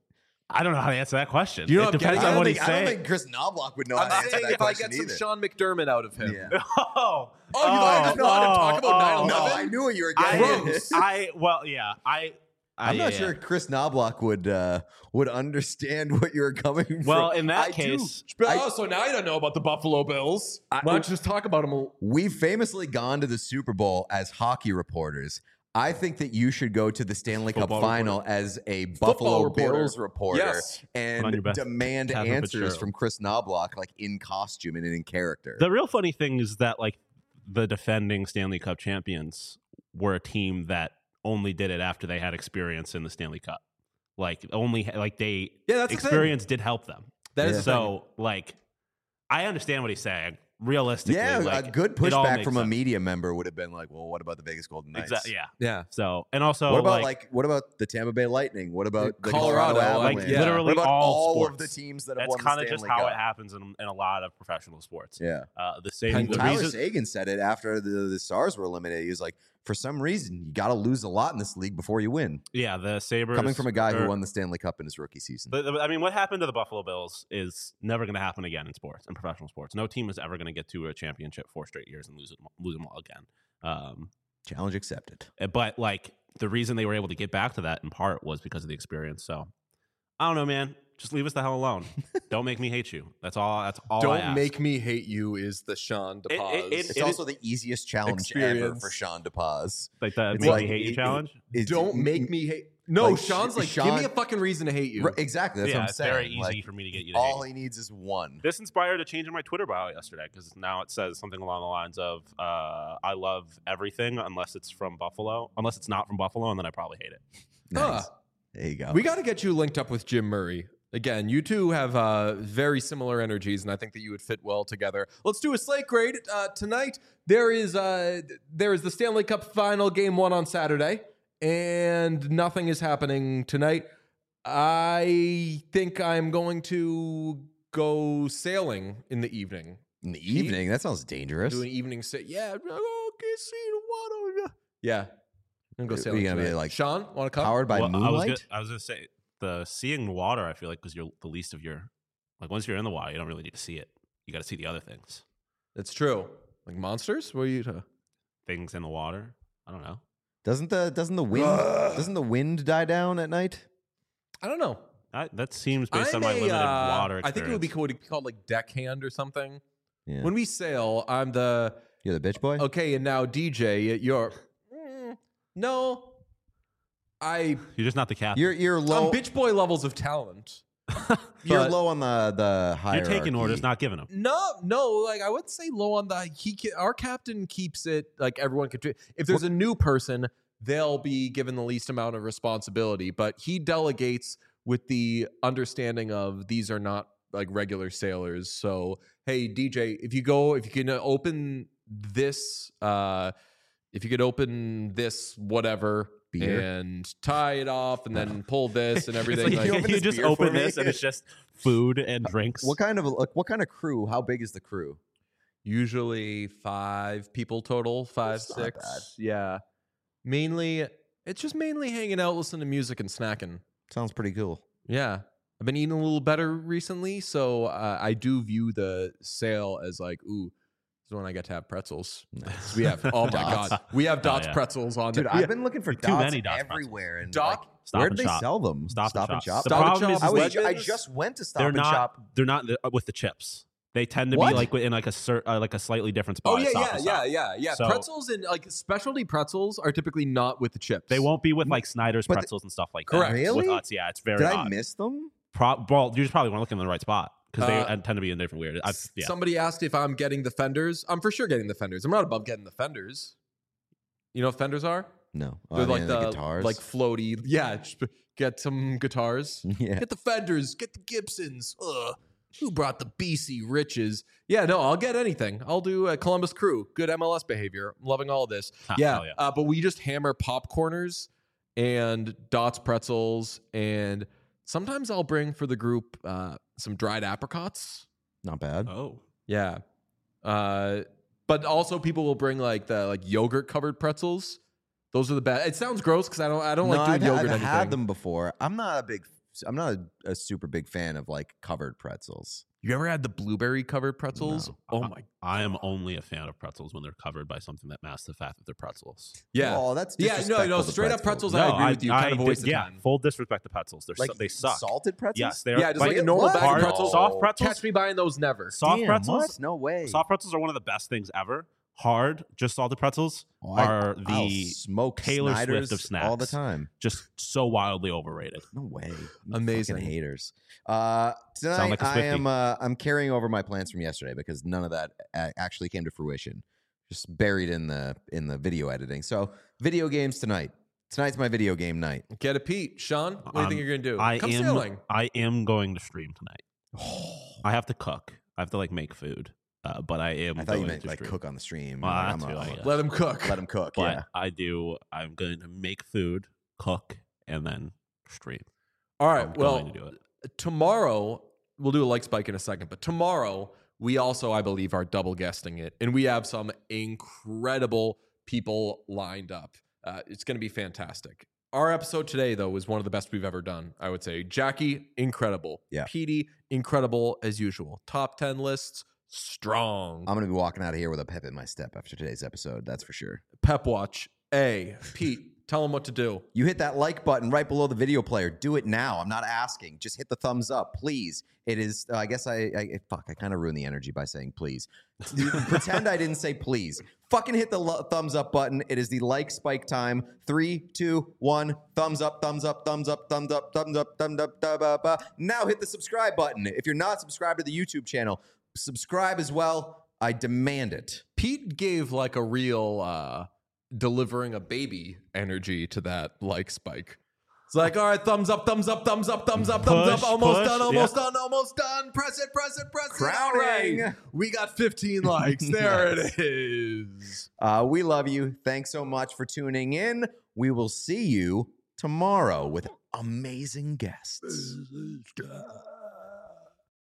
I don't know how to answer that question. You know it what I'm depends getting on at? what I he's don't think, I don't saying. think Chris Knobloch would know how I'm to answer saying that if I question get some either. Sean McDermott out of him. Yeah. Oh, Oh, you guys know how to talk about nine oh, No, eleven? I knew what you were I, getting. Gross. I well, yeah, I. I I'm not yeah, sure Chris Knobloch would uh, would understand what you were coming from. Well, in that I do- case, I- Oh, so now you don't know about the Buffalo Bills. Why don't you just talk about them? A, We've famously gone to the Super Bowl as hockey reporters. I think that you should go to the Stanley Cup Football final as a Buffalo reporter. Bills reporter Yes. Put on and your best demand Catherine answers Fitzgerald. from Chris Knobloch, like in costume and in character. the real funny thing is that like the defending Stanley Cup champions were a team that only did it after they had experience in the Stanley Cup. Like only like they Yeah, that's the thing. experience did help them. that is Yeah. the So like I understand what he's saying. Realistically, yeah, like, a good it all pushback makes from a sense. media member would have been like, "Well, what about the Vegas Golden Knights? Exactly. Yeah. yeah. So and also What about like, like, what about the Tampa Bay Lightning? What about the Colorado, Colorado, like, Avalanche? yeah. literally what about all all of sports. the teams that have that's won the kind of Stanley just how Cup? it happens in, in a lot of professional sports. Yeah. Uh, the same. Pen- The Tyler reason, Sagan said it after the, the Stars were eliminated. He was like, for some reason, you got to lose a lot in this league before you win. yeah, the Sabres Coming from a guy are- who won the Stanley Cup in his rookie season. The, the- I mean, what happened to the Buffalo Bills is never going to happen again in sports, in professional sports. No team is ever going to get to a championship four straight years and lose it, lose them all again. Um, Challenge accepted. but like the reason they were able to get back to that in part was because of the experience. So I don't know, man. Just leave us the hell alone. Don't make me hate you. That's all. That's all. I Don't ask. make me hate you is the Sean It- DePaz. it- it- It's also the easiest challenge ever Experience. for Sean DePaz. like the It's make like- me hate you it- challenge. It's- Don't make me hate. No, like, Sean's like, Sean- give me a fucking reason to hate you. Right, exactly. That's yeah, what I'm it's saying. very easy Like, for me to get you to all hate. he needs is one. This inspired a change in my Twitter bio yesterday because now it says something along the lines of uh, "I love everything unless it's from Buffalo, unless it's not from Buffalo, and then I probably hate it." Nice. Huh. There you go. We got to get you linked up with Jim Murray. Again, you two have uh, very similar energies, and I think that you would fit well together. Let's do a slate grade uh, tonight. There is uh, there is the Stanley Cup Final Game One on Saturday, and nothing is happening tonight. I think I'm going to go sailing in the evening. In the evening, that sounds dangerous. Do an evening sail. Yeah, oh, okay, see the water. Yeah, I'm gonna go Are sailing. you gonna be, tonight. like, Sean? Want to come? Powered by Well, I was moonlight? gonna, I was gonna say the seeing the water. I feel like because you're the least of your like once you're in the water, you don't really need to see it. You got to see the other things, That's true. Like monsters? What are you? Uh, things in the water. I don't know. Doesn't the doesn't the wind doesn't the wind die down at night? I don't know. I, that seems based I'm on my a, limited uh, water. I think it would be experience. called, called like deckhand or something. Yeah. When we sail, I'm the You're the bitch boy? okay, and now D J, you're mm, no. I You're just not the captain. You're you're low I'm bitch boy levels of talent. you're but- low on the the You're hierarchy. taking orders, not giving them. No, no, like I would say low on the he. ca- Our captain keeps it like everyone could. If there's a new person, they'll be given the least amount of responsibility, but he delegates with the understanding of these are not like regular sailors. So hey, D J, if you go, if you can open this, uh, if you could open this, whatever, Beer? and tie it off and then pull this and It's everything. like, you Like, open you this just beer for open me? this and it's just food and drinks. What kind of like, what kind of crew? How big is the crew? usually five people total, five, That's not six. bad. Yeah. Mainly, it's just mainly hanging out, listening to music and snacking. Sounds pretty cool. Yeah. I've been eating a little better recently. So uh, I do view the sale as like, ooh, this is when I get to have pretzels. Nice. We have, oh my Dots. God, we have Oh, Dots yeah. pretzels on Dude, there. I've Yeah. been looking for Too dots many Dots everywhere, and Dot- like, Stop where and do they shop. sell them? Stop, and shop. Shop. The Stop and problem Shop is, I, was, Wegmans? I just went to Stop they're and not. Shop. They're not the, uh, with the chips. They tend to What? be like in like a cer- uh, like a slightly different spot. Oh at yeah, Stop yeah, and yeah, Shop. yeah, yeah. So- pretzels and like specialty pretzels are typically not with the chips. They won't be with like Snyder's But the- pretzels and stuff like Correct. that. Really? With us, yeah, it's very Did I odd. miss them? Pro- well, you just probably weren't looking in the right spot because they Uh, uh, tend to be in different weird. I, yeah. Somebody asked if I'm getting the fenders. I'm for sure getting the fenders. I'm not above getting the fenders. You know what fenders are? No. Oh, They're the- like the the, guitars. like floaty. Yeah, just get some guitars. yeah. Get the fenders. Get the Gibsons. Ugh. Who brought the B C riches? Yeah, no, I'll get anything. I'll do a Columbus Crew. Good M L S behavior. I'm loving all this. Ha, yeah, hell yeah. Uh, but we just hammer popcorners and Dots pretzels, and sometimes I'll bring for the group uh, some dried apricots. Not bad. Oh, Yeah. Uh, but also people will bring like the like yogurt covered pretzels. Those are the best. It sounds gross because I don't I don't no, like doing I've, yogurt. I've anything. had them before. I'm not a big. I'm not a, a super big fan of like covered pretzels. You ever had the blueberry covered pretzels? No. Oh Uh, my. I am only a fan of pretzels when they're covered by something that masks the fact that they're pretzels. Yeah. Oh, that's Yeah, no, no, disrespectful to straight up pretzels, I No, agree with you. Kind of a did- waste of yeah, time. full disrespect to pretzels. They're Like so, they suck. salted pretzels. Yes, they are. Yeah, just like a normal What? bag hard- of pretzels. Soft pretzels. Catch me buying those never. Soft Damn, pretzels. what? No way. Soft pretzels are one of the best things ever. Hard, just salted pretzels Oh, I- are I'll the smoke Taylor Swift Snyder's of snacks. all the time. just so wildly overrated. No way. You Amazing. fucking haters. Uh, tonight like a I Swiftie. am uh, I'm carrying over my plans from yesterday because none of that a- actually came to fruition. Just buried in the in the video editing. So video games tonight. Tonight's my video game night. Get a Pete. Sean, what do you Um, think you're going to do? I Come am. sailing. I am going to stream tonight. I have to cook. I have to like make food. Uh, but I am. I thought you going meant to like stream. cook on the stream. Well, Like, that I'm too, a- I I'm a- guess. Let him cook. let him cook. But yeah. I do. I'm going to make food, cook, and then stream. All right. I'm Well, going to do it. tomorrow, we'll do a like spike in a second, but tomorrow, we also, I believe, are double guesting it. And we have some incredible people lined up. Uh, it's going to be fantastic. Our episode today, though, is one of the best we've ever done, I would say. Jackie, incredible. Yeah. Petey, incredible as usual. Top ten lists, strong. I'm gonna be walking out of here with a pep in my step after today's episode. That's for sure. Pep Watch, A. Pete, tell them what to do. You hit that like button right below the video player. Do it now. I'm not asking. Just hit the thumbs up, please. It is. Uh, I guess I. I fuck. I kind of ruined the energy by saying please. Pretend I didn't say please. Fucking hit the lo- thumbs up button. It is the like spike time. Three, two, one. Thumbs up. Thumbs up. Thumbs up. Thumbs up. Thumbs up. Thumbs up. Thumbs up. Thumbs up. Now hit the subscribe button. If you're not subscribed to the YouTube channel, subscribe as well. I demand it. Pete gave like a real uh, delivering a baby energy to that like spike. It's like, all right, thumbs up, thumbs up, thumbs up, thumbs up, thumbs Push, up, almost push, done, almost yeah. done, almost done. Press it, press it, press it. All Crowning. right. We got fifteen likes. There it is. Uh, we love you. Thanks so much for tuning in. We will see you tomorrow with amazing guests.